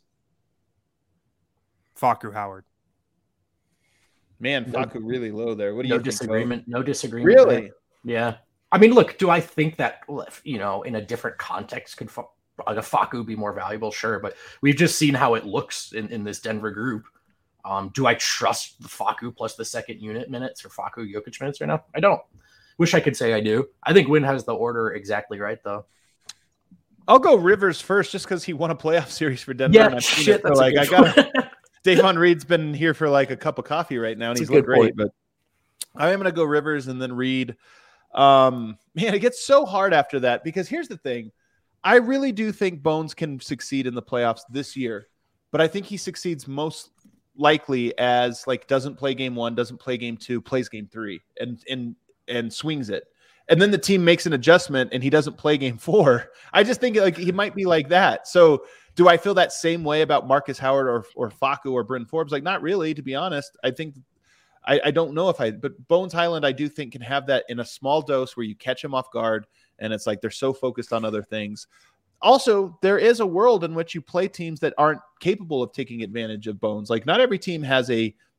Facu Howard. Man, Facu really low there. What do you think? No disagreement. Really? There. Yeah. I mean, look, do I think that, in a different context, could a Facu be more valuable? Sure. But we've just seen how it looks in this Denver group. Do I trust the Facu plus the second unit minutes or Facu Jokic minutes right now? I don't. Wish I could say I do. I think Wynn has the order exactly right, though. I'll go Rivers first just because he won a playoff series for Denver. Yeah, shit. That's I got Davon Reed's been here for like a cup of coffee right now, and he's looked great. But I am going to go Rivers and then Reed. Man, it gets so hard after that because here's the thing. I really do think Bones can succeed in the playoffs this year, but I think he succeeds most likely as like doesn't play game 1, doesn't play game 2, plays game 3 and swings it. And then the team makes an adjustment and he doesn't play game 4. I just think like he might be like that. So do I feel that same way about Marcus Howard or Facu or Bryn Forbes? Like, not really, to be honest. I think I don't know but Bones Hyland, I do think can have that in a small dose where you catch him off guard and it's like they're so focused on other things. Also, there is a world in which you play teams that aren't capable of taking advantage of Bones. Like not every team has a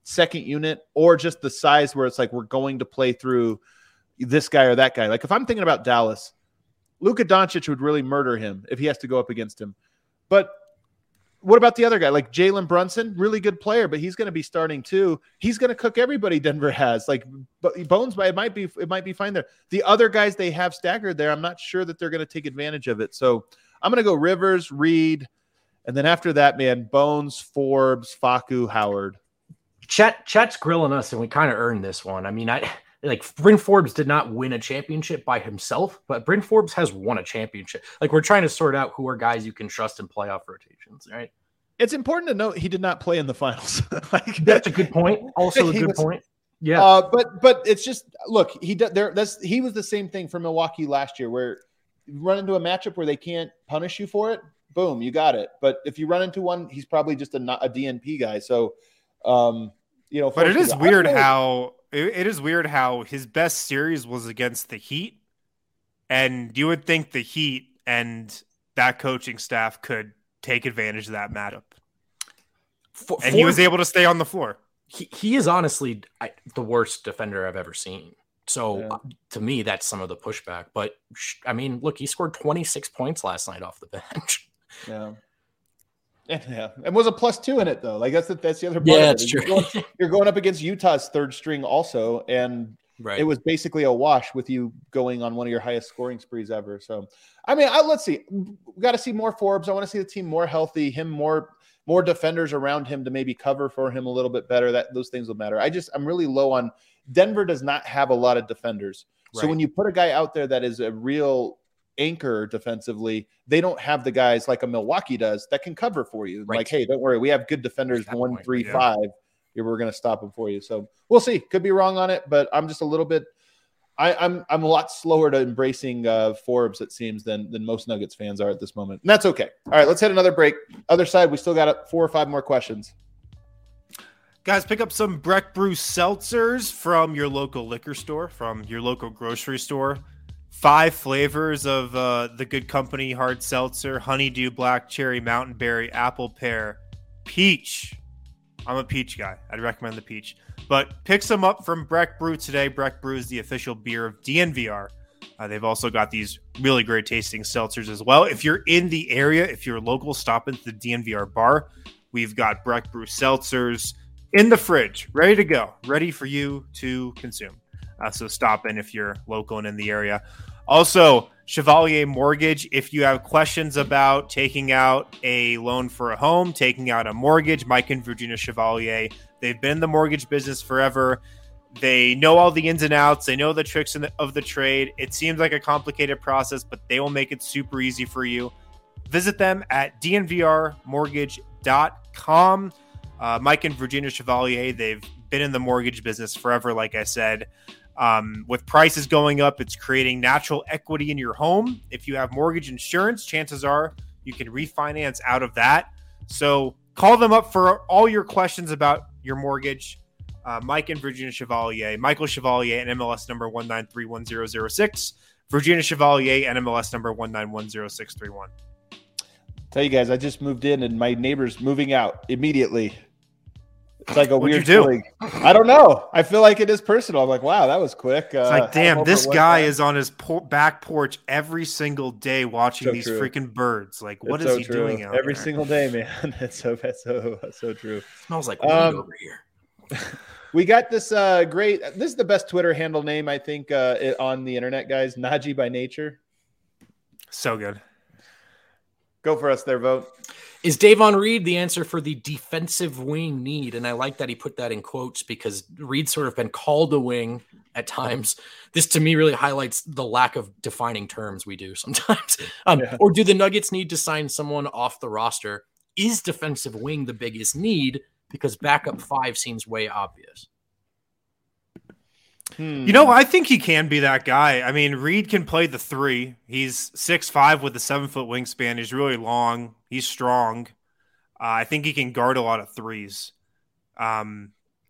second unit, or just the size where it's like we're going to play through this guy or that guy. Like if I'm thinking about Dallas, Luka Doncic would really murder him if he has to go up against him. But what about the other guy? Like Jalen Brunson, really good player, but he's going to be starting too. He's going to cook everybody Denver has. Like Bones, it might be fine there. The other guys they have staggered there, I'm not sure that they're going to take advantage of it. So I'm going to go Rivers, Reed, and then after that, man, Bones, Forbes, Facu, Howard. Chet's grilling us, and we kind of earned this one. I mean, Bryn Forbes did not win a championship by himself, but Bryn Forbes has won a championship. Like, we're trying to sort out who are guys you can trust in playoff rotations, right? It's important to note he did not play in the finals. That's a good point. Also a good point. Yeah. But it's just, look, he was the same thing for Milwaukee last year, where you run into a matchup where they can't punish you for it. Boom, you got it. But if you run into one, he's probably just a DNP guy. So, but it is weird how his best series was against the Heat, and you would think the Heat and that coaching staff could take advantage of that matchup. And he was able to stay on the floor. He is honestly the worst defender I've ever seen. So to me, that's some of the pushback. But I mean, look, he scored 26 points last night off the bench. Yeah. Yeah, and was a +2 in it though. Like that's the other part. Yeah, that's true. You're going up against Utah's third string also, and it was basically a wash with you going on one of your highest scoring sprees ever. So, I mean, let's see. We got to see more Forbes. I want to see the team more healthy. Him more defenders around him to maybe cover for him a little bit better. Those things will matter. I'm really low on Denver. Does not have a lot of defenders. Right. So when you put a guy out there that is a real anchor defensively, they don't have the guys like a Milwaukee does that can cover for you. Right. Like, hey, don't worry, we have good defenders 1, 3, 5. Here we're going to stop them for you. So we'll see. Could be wrong on it, but I'm just a little bit. I'm a lot slower to embracing Forbes, it seems, than most Nuggets fans are at this moment, and that's okay. All right, let's hit another break. Other side, we still got 4 or 5 more questions. Guys, pick up some Breck Brew seltzers from your local liquor store, from your local grocery store. 5 flavors of the Good Company hard seltzer: honeydew, black cherry, mountain berry, apple pear, peach. I'm a peach guy. I'd recommend the peach. But pick some up from Breck Brew today. Breck Brew is the official beer of DNVR. They've also got these really great tasting seltzers as well. If you're in the area, if you're local, stop into the DNVR bar. We've got Breck Brew seltzers in the fridge, ready to go, ready for you to consume. So stop in if you're local and in the area. Also, Chevalier Mortgage, if you have questions about taking out a loan for a home, taking out a mortgage, Mike and Virginia Chevalier, they've been in the mortgage business forever. They know all the ins and outs. They know the tricks of the trade. It seems like a complicated process, but they will make it super easy for you. Visit them at dnvrmortgage.com. Mike and Virginia Chevalier, they've been in the mortgage business forever, like I said. With prices going up, it's creating natural equity in your home. If you have mortgage insurance, chances are you can refinance out of that. So call them up for all your questions about your mortgage. Mike and Virginia Chevalier, Michael Chevalier, NMLS number 1931006, Virginia Chevalier, NMLS number 1910631. Tell you guys, I just moved in and my neighbor's moving out immediately. It's like a What'd weird you do? feeling. I don't know. I feel like it is personal. I'm like, wow, that was quick. It's like, damn, this guy is on his back porch every single day watching these freaking birds. Like, what is he doing out every there? single day, man? It's so true. It smells like weed over here. We got this great. This is the best Twitter handle name, I think, on the internet, guys. Najee by nature. So good. Go for us there, Vote. Is Davon Reed the answer for the defensive wing need? And I like that he put that in quotes because Reed's sort of been called a wing at times. This to me really highlights the lack of defining terms we do sometimes. Or do the Nuggets need to sign someone off the roster? Is defensive wing the biggest need? Because backup 5 seems way obvious. You know, I think he can be that guy. I mean, Reed can play the 3. He's 6'5" with a 7-foot wingspan. He's really long. He's strong. I think he can guard a lot of threes. I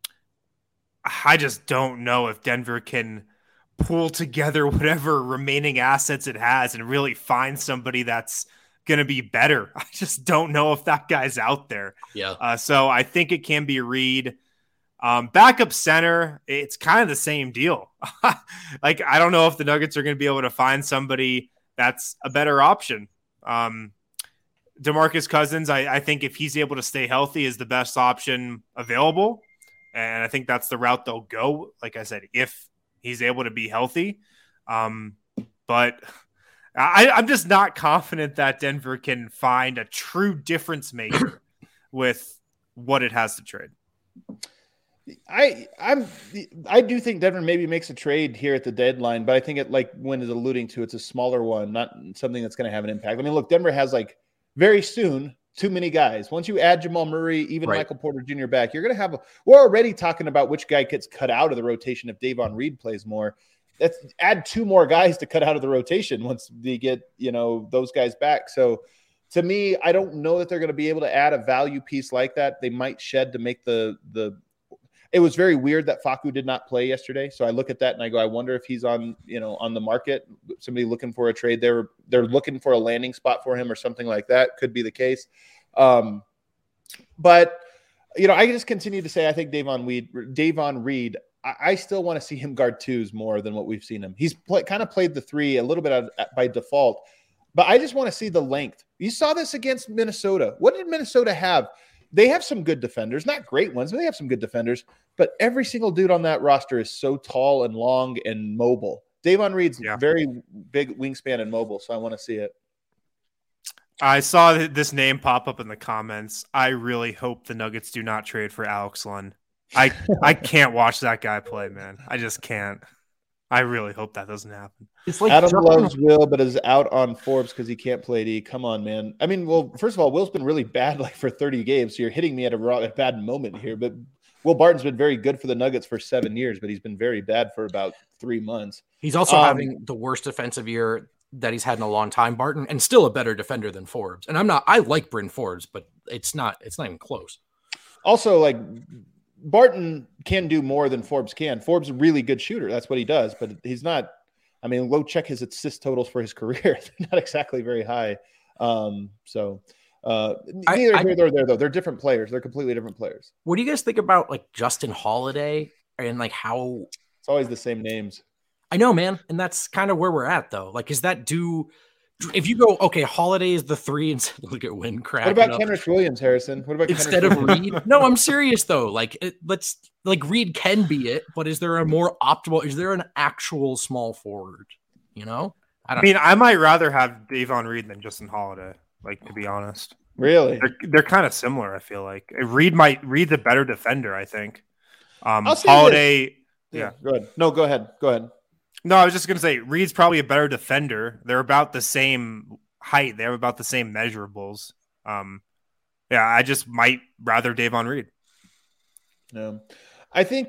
just don't know if Denver can pull together whatever remaining assets it has and really find somebody that's going to be better. I just don't know if that guy's out there. Yeah. So I think it can be Reed. Backup center, it's kind of the same deal. Like, I don't know if the Nuggets are going to be able to find somebody that's a better option. DeMarcus Cousins, I think if he's able to stay healthy, is the best option available. And I think that's the route they'll go. Like I said, if he's able to be healthy. But I'm just not confident that Denver can find a true difference maker with what it has to trade. I do think Denver maybe makes a trade here at the deadline, but I think it, like Wynn is alluding to, it's a smaller one, not something that's going to have an impact. I mean, look, Denver has like very soon too many guys. Once you add Jamal Murray, even Michael Porter Jr. back, you're going to have we're already talking about which guy gets cut out of the rotation if Davon Reed plays more. That's add 2 more guys to cut out of the rotation once they get, those guys back. So to me, I don't know that they're going to be able to add a value piece like that. They might shed to make the it was very weird that Facu did not play yesterday. So I look at that and I go, I wonder if he's on the market, somebody looking for a trade. They're looking for a landing spot for him or something like that. Could be the case. But I just continue to say, I think Davon Reed, I still want to see him guard 2s more than what we've seen him. He's kind of played the 3 a little bit by default, but I just want to see the length. You saw this against Minnesota. What did Minnesota have? They have some good defenders, not great ones, but they have some good defenders. But every single dude on that roster is so tall and long and mobile. Davon Reed's very big wingspan and mobile, so I want to see it. I saw this name pop up in the comments. I really hope the Nuggets do not trade for Alex Len. I can't watch that guy play, man. I just can't. I really hope that doesn't happen. It's like Adam loves Will, but is out on Forbes because he can't play D. Come on, man. I mean, well, first of all, Will's been really bad for 30 games, so you're hitting me at a bad moment here. But Will Barton's been very good for the Nuggets for 7 years, but he's been very bad for about 3 months. He's also having the worst defensive year that he's had in a long time, Barton, and still a better defender than Forbes. And I like Bryn Forbes, but it's not even close. Also, like, Barton can do more than Forbes can. Forbes is a really good shooter. That's what he does, but he's not. I mean, go check his assist totals for his career. They're not exactly very high. Neither here nor there, though. They're different players. They're completely different players. What do you guys think about like Justin Holiday and like how it's always the same names? I know, man. And that's kind of where we're at, though. Like, is that if you go, okay, Holiday is the 3 and look at Wynn cracking What about up. Kenrich Williams, Harrison? What about instead of Reed? No, I'm serious though. Like, Reed can be it, but is there is there an actual small forward? I might rather have Davon Reed than Justin Holiday, like, to be honest. Really? They're kind of similar, I feel like. Reed's a better defender, I think. Holiday. Yeah, go ahead. No, go ahead. No, I was just going to say Reed's probably a better defender. They're about the same height. They have about the same measurables. I just might rather Davon Reed. Yeah. I think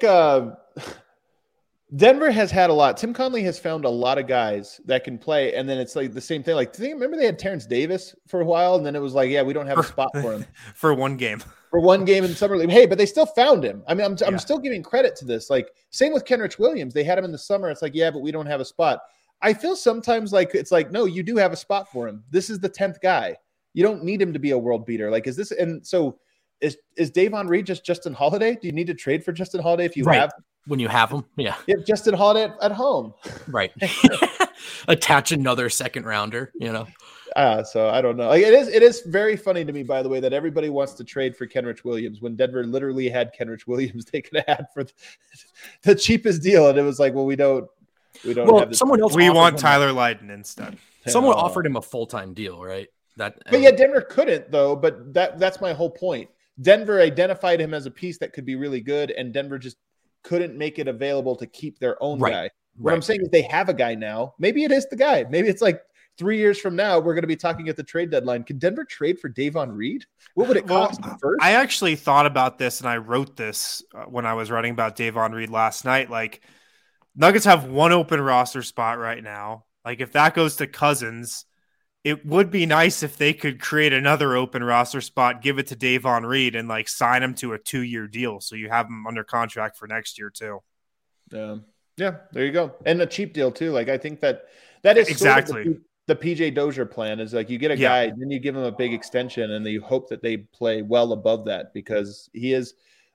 Denver has had a lot. Tim Conley has found a lot of guys that can play, and then it's like the same thing. Like, remember they had Terrence Davis for a while, and then it was like, we don't have a spot for him. For one game. For one game in summer league. Hey, but they still found him. I mean, I'm still giving credit to this. Like, same with Kenrich Williams. They had him in the summer. It's like, but we don't have a spot. I feel sometimes like it's like, no, you do have a spot for him. This is the 10th guy. You don't need him to be a world beater. Like, is this? And so is Davon Reed just Justin Holiday? Do you need to trade for Justin Holiday if you have? When you have him, yeah. You have Justin Holiday at home. Right. Attach another second rounder, So I don't know. Like, it is very funny to me, by the way, that everybody wants to trade for Kenrich Williams when Denver literally had Kenrich Williams they could have for the cheapest deal, and it was like, well, we don't. Have this. Someone else. We want Tyler Lydon instead. Someone offered him a full-time deal, right? But Denver couldn't though. But that's my whole point. Denver identified him as a piece that could be really good, and Denver just couldn't make it available to keep their own guy. What I'm saying is they have a guy now. Maybe it is the guy. Maybe it's like 3 years from now, we're going to be talking at the trade deadline. Can Denver trade for Davon Reed? What would it cost first? I actually thought about this, and I wrote this when I was writing about Davon Reed last night. Like, Nuggets have one open roster spot right now. Like, if that goes to Cousins, it would be nice if they could create another open roster spot, give it to Davon Reed, and like sign him to a 2-year deal. So you have him under contract for next year too. Yeah, there you go. And a cheap deal too. Like, I think that is exactly sort of the PJ Dozier plan is like, you get a guy, then you give him a big extension, and then you hope that they play well above that, because he is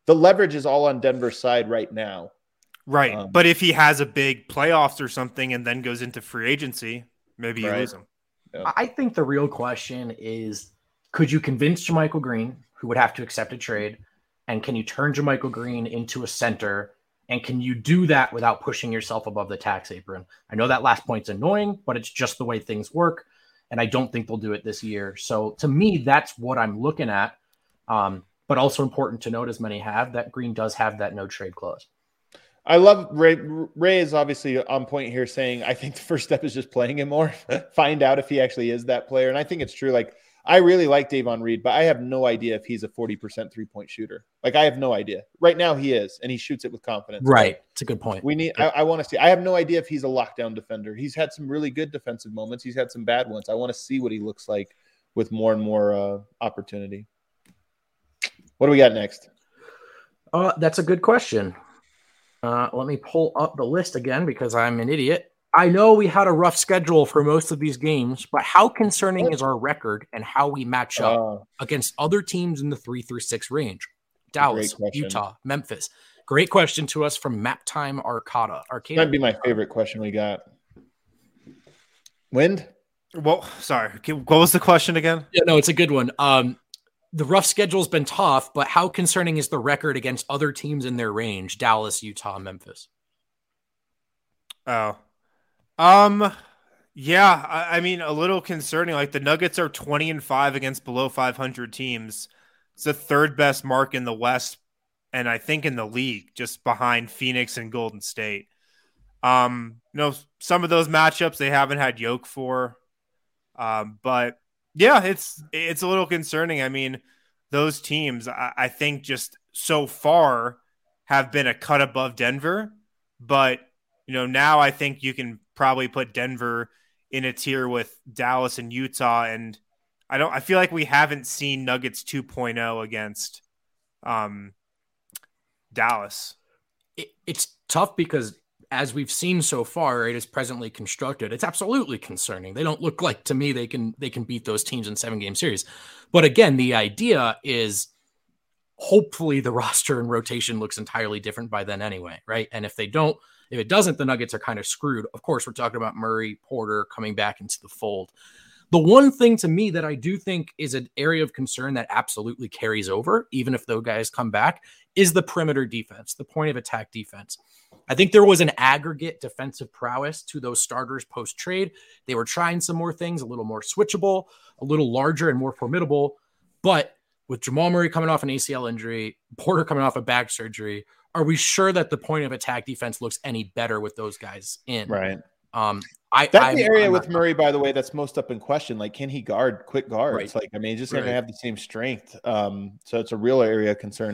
the leverage is all on Denver's side right now. Right. But if he has a big playoffs or something and then goes into free agency, maybe you lose him. Yeah. I think the real question is, could you convince JaMychal Green, who would have to accept a trade, and can you turn JaMychal Green into a center? And can you do that without pushing yourself above the tax apron? I know that last point's annoying, but it's just the way things work. And I don't think they'll do it this year. So to me, that's what I'm looking at. But also important to note, as many have, that Green does have that no trade clause. I love Ray. Ray is obviously on point here saying, I think the first step is just playing him more, find out if he actually is that player. And I think it's true. Like, I really like Davon Reed, but I have no idea if he's a 40% 3-point shooter. Like, I have no idea. Right now he is, and he shoots it with confidence. Right. It's a good point. I want to see. I have no idea if he's a lockdown defender. He's had some really good defensive moments. He's had some bad ones. I want to see what he looks like with more and more opportunity. What do we got next? That's a good question. Let me pull up the list again because I'm an idiot. I know we had a rough schedule for most of these games, but how concerning is our record and how we match up against other teams in the 3-6 range? Dallas, Utah, Memphis. Great question to us from Maptime Arcada. Might be my favorite question we got. Wind? Well, sorry. What was the question again? Yeah, no, it's a good one. The rough schedule's been tough, but how concerning is the record against other teams in their range? Dallas, Utah, Memphis. Oh. Yeah, I mean, a little concerning. Like, the Nuggets are 20-5 against below 500 teams. It's the third best mark in the West, and I think in the league, just behind Phoenix and Golden State. Some of those matchups they haven't had Yoke for, but yeah, it's a little concerning. I mean, those teams, I think, just so far have been a cut above Denver, but now I think you can probably put Denver in a tier with Dallas and Utah, and I feel like we haven't seen Nuggets 2.0 against Dallas. It's tough because, as we've seen so far, it is presently constructed. It's absolutely concerning. They don't look like, to me, they can beat those teams in 7-game series. But again, the idea is hopefully the roster and rotation looks entirely different by then anyway, right? And if it doesn't, the Nuggets are kind of screwed. Of course, we're talking about Murray, Porter coming back into the fold. The one thing to me that I do think is an area of concern that absolutely carries over, even if those guys come back, is the perimeter defense, the point of attack defense. I think there was an aggregate defensive prowess to those starters post-trade. They were trying some more things, a little more switchable, a little larger and more formidable. But with Jamal Murray coming off an ACL injury, Porter coming off a back surgery, are we sure that the point of attack defense looks any better with those guys in? Right. That's the area with Murray, by the way, that's most up in question. Like, can he guard quick guards? Right. Like, I mean, he's just going to have the same strength. So it's a real area of concern.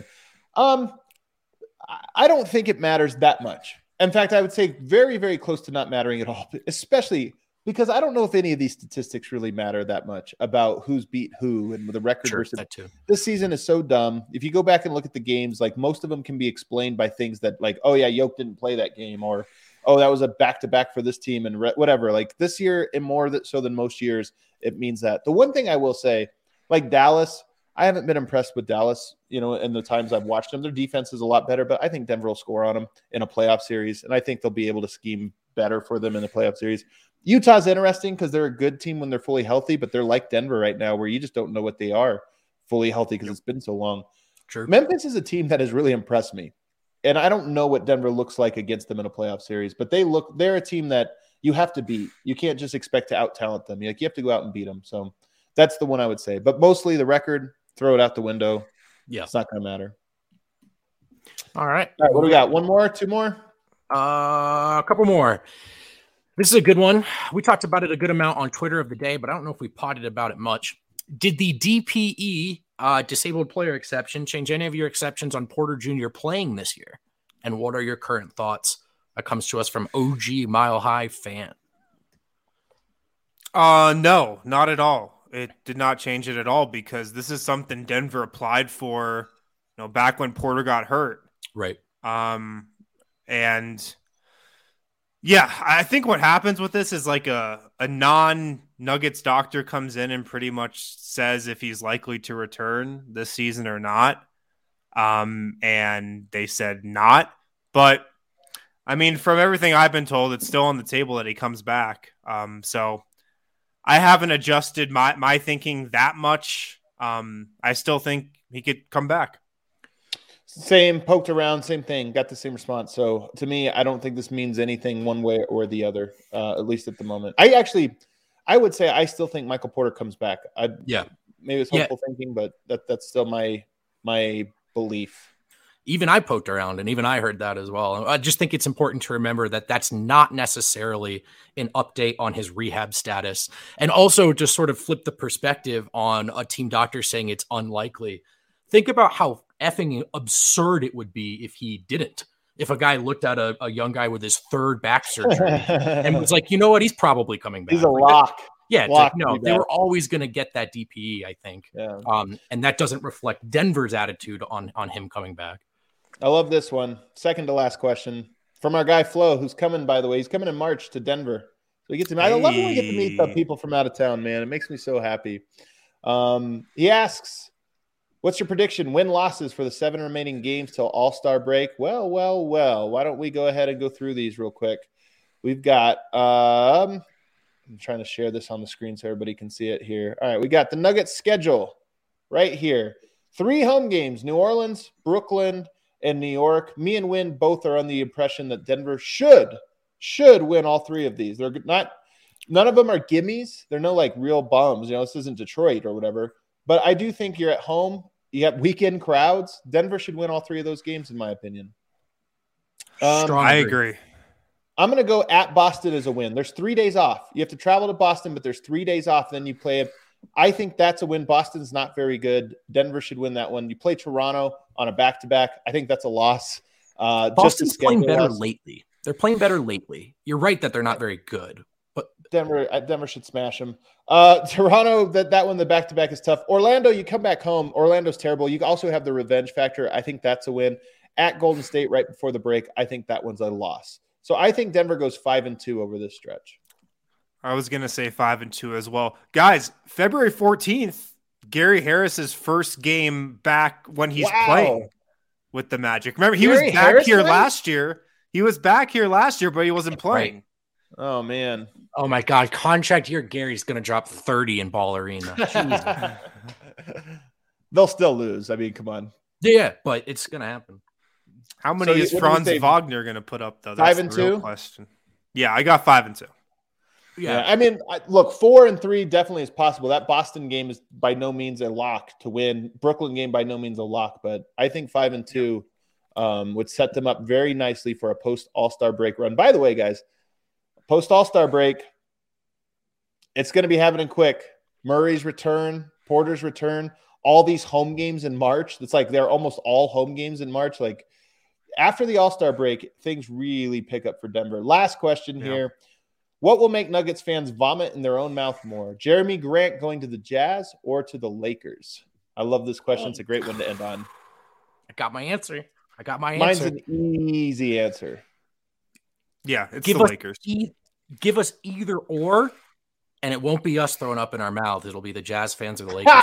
I don't think it matters that much. In fact, I would say very, very close to not mattering at all, especially because I don't know if any of these statistics really matter that much about who's beat who and the record versus that too. This season is so dumb. If you go back and look at the games, like, most of them can be explained by things that, like, oh yeah, Yoke didn't play that game, or oh, that was a back-to-back for this team, and whatever. Like, this year, and more so than most years, it means that. The one thing I will say, like Dallas, I haven't been impressed with Dallas, in the times I've watched them. Their defense is a lot better, but I think Denver will score on them in a playoff series, and I think they'll be able to scheme better for them in the playoff series. Utah's interesting because they're a good team when they're fully healthy, but they're like Denver right now where you just don't know what they are fully healthy because it's been so long. True. Memphis is a team that has really impressed me, and I don't know what Denver looks like against them in a playoff series, but they're a team that you have to beat. You can't just expect to out-talent them. You have to go out and beat them. So that's the one I would say. But mostly the record, throw it out the window. Yeah. It's not going to matter. All right. All right, what do we got? One more? Two more? A couple more. This is a good one. We talked about it a good amount on Twitter of the day, but I don't know if we potted about it much. Did the DPE, disabled player exception, change any of your exceptions on Porter Jr. playing this year? And what are your current thoughts? That comes to us from OG Mile High Fan. No, not at all. It did not change it at all because this is something Denver applied for, back when Porter got hurt. Right. And yeah, I think what happens with this is like a non-Nuggets doctor comes in and pretty much says if he's likely to return this season or not. And they said not. But, I mean, from everything I've been told, it's still on the table that he comes back. So I haven't adjusted my thinking that much. I still think he could come back. Same, poked around, same thing, got the same response. So to me, I don't think this means anything one way or the other, at least at the moment. I would say I still think Michael Porter comes back. Maybe it's hopeful thinking, but that's still my belief. Even I poked around, and even I heard that as well. I just think it's important to remember that that's not necessarily an update on his rehab status. And also just sort of flip the perspective on a team doctor saying it's unlikely. Think about how effing absurd it would be if he didn't. If a guy looked at a young guy with his third back surgery and was like, you know what, he's probably coming back. He's a lock. Yeah, lock they were always going to get that DPE, I think. Yeah. And that doesn't reflect Denver's attitude on him coming back. I love this one. Second to last question from our guy Flo, who's coming, by the way. He's coming in March to Denver. So we get to I love when we get to meet the people from out of town, man. It makes me so happy. He asks, what's your prediction? Win-losses for the 7 remaining games till All-Star break? Well. Why don't we go ahead and go through these real quick? We've got I'm trying to share this on the screen so everybody can see it here. All right, we got the Nuggets schedule right here. 3 home games, New Orleans, Brooklyn, and New York. Me and Win both are on the impression that Denver should win all 3 of these. They're not, none of them are gimmies. They're no like real bums. You know, this isn't Detroit or whatever. But I do think you're at home. You have weekend crowds. Denver should win all 3 of those games, in my opinion. I agree. I'm going to go at Boston as a win. There's 3 days off. You have to travel to Boston, but there's 3 days off. Then you play it. I think that's a win. Boston's not very good. Denver should win that one. You play Toronto on a back-to-back. I think that's a loss. Boston's playing better lately. They're playing better lately. You're right that they're not very good. But Denver should smash them. Toronto, that one, the back-to-back is tough. Orlando, you come back home. Orlando's terrible. You also have the revenge factor. I think that's a win. At Golden State right before the break, I think that one's a loss. So I think Denver goes 5-2 over this stretch. I was going to say 5-2 as well. Guys, February 14th, Gary Harris's first game back when he's playing with the Magic. Remember, he was back here last year. He was back here last year, but he wasn't playing. Right. Oh, man. Oh, my God. Contract year, Gary's going to drop 30 in Ball Arena. They'll still lose. I mean, come on. Yeah, but it's going to happen. How many is Franz Wagner going to put up, though? That's 5-2? the real question. Yeah, I got 5-2. Yeah, I mean, look, 4-3 definitely is possible. That Boston game is by no means a lock to win. Brooklyn game by no means a lock, but I think 5-2 would set them up very nicely for a post All-Star break run. By the way, guys, post All-Star break, it's going to be happening quick. Murray's return, Porter's return, all these home games in March. It's like they're almost all home games in March. Like after the All-Star break, things really pick up for Denver. Last question here. What will make Nuggets fans vomit in their own mouth more? Jeremy Grant going to the Jazz or to the Lakers? I love this question. It's a great one to end on. I got my answer. Mine's an easy answer. Yeah, it's the Lakers. Give us either or, and it won't be us throwing up in our mouth. It'll be the Jazz fans or the Lakers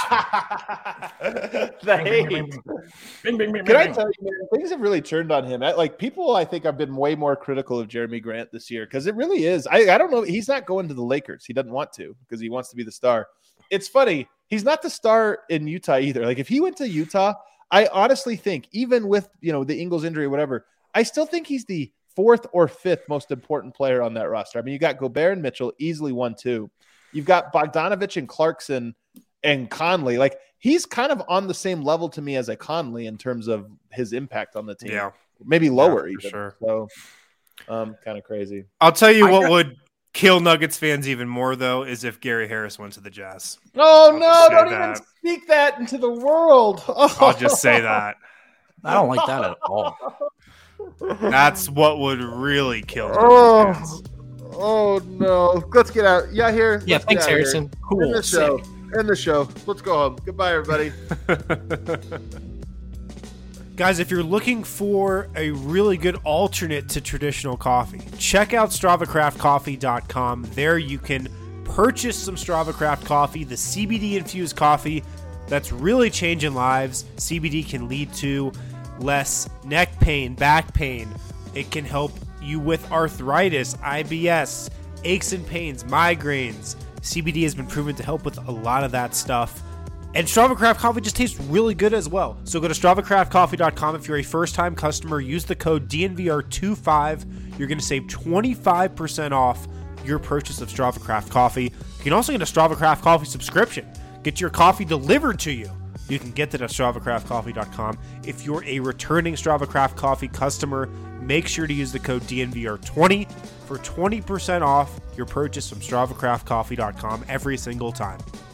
fans. The hate. Can I tell you, man, things have really turned on him. Like people, I think, have been way more critical of Jeremy Grant this year because it really is. I don't know. He's not going to the Lakers. He doesn't want to because he wants to be the star. It's funny. He's not the star in Utah either. Like if he went to Utah, I honestly think even with the Ingles injury or whatever, I still think he's the 4th or 5th most important player on that roster. I mean, you got Gobert and Mitchell, easily 1-2. You've got Bogdanovich and Clarkson and Conley. Like he's kind of on the same level to me as a Conley in terms of his impact on the team. Yeah, maybe lower even. Sure. So, kind of crazy. I'll tell you what would kill Nuggets fans even more though is if Gary Harris went to the Jazz. Oh no! Don't even speak that into the world. I'll just say that. I don't like that at all. That's what would really kill Nuggets fans. Oh no! Let's get out. Yeah, here. Yeah, thanks, Harrison. Cool. End the show. Let's go home. Goodbye, everybody. Guys, if you're looking for a really good alternate to traditional coffee, check out StravaCraftCoffee.com. There you can purchase some StravaCraft coffee, the CBD infused coffee that's really changing lives. CBD can lead to less neck pain, back pain. It can help you with arthritis, IBS, aches and pains, migraines. CBD has been proven to help with a lot of that stuff. And Strava Craft Coffee just tastes really good as well. So go to StravaCraftCoffee.com. If you're a first-time customer, use the code DNVR25. You're going to save 25% off your purchase of Strava Craft Coffee. You can also get a Strava Craft Coffee subscription. Get your coffee delivered to you. You can get that at StravaCraftCoffee.com. If you're a returning Strava Craft Coffee customer, make sure to use the code DNVR20 for 20% off your purchase from StravaCraftCoffee.com every single time.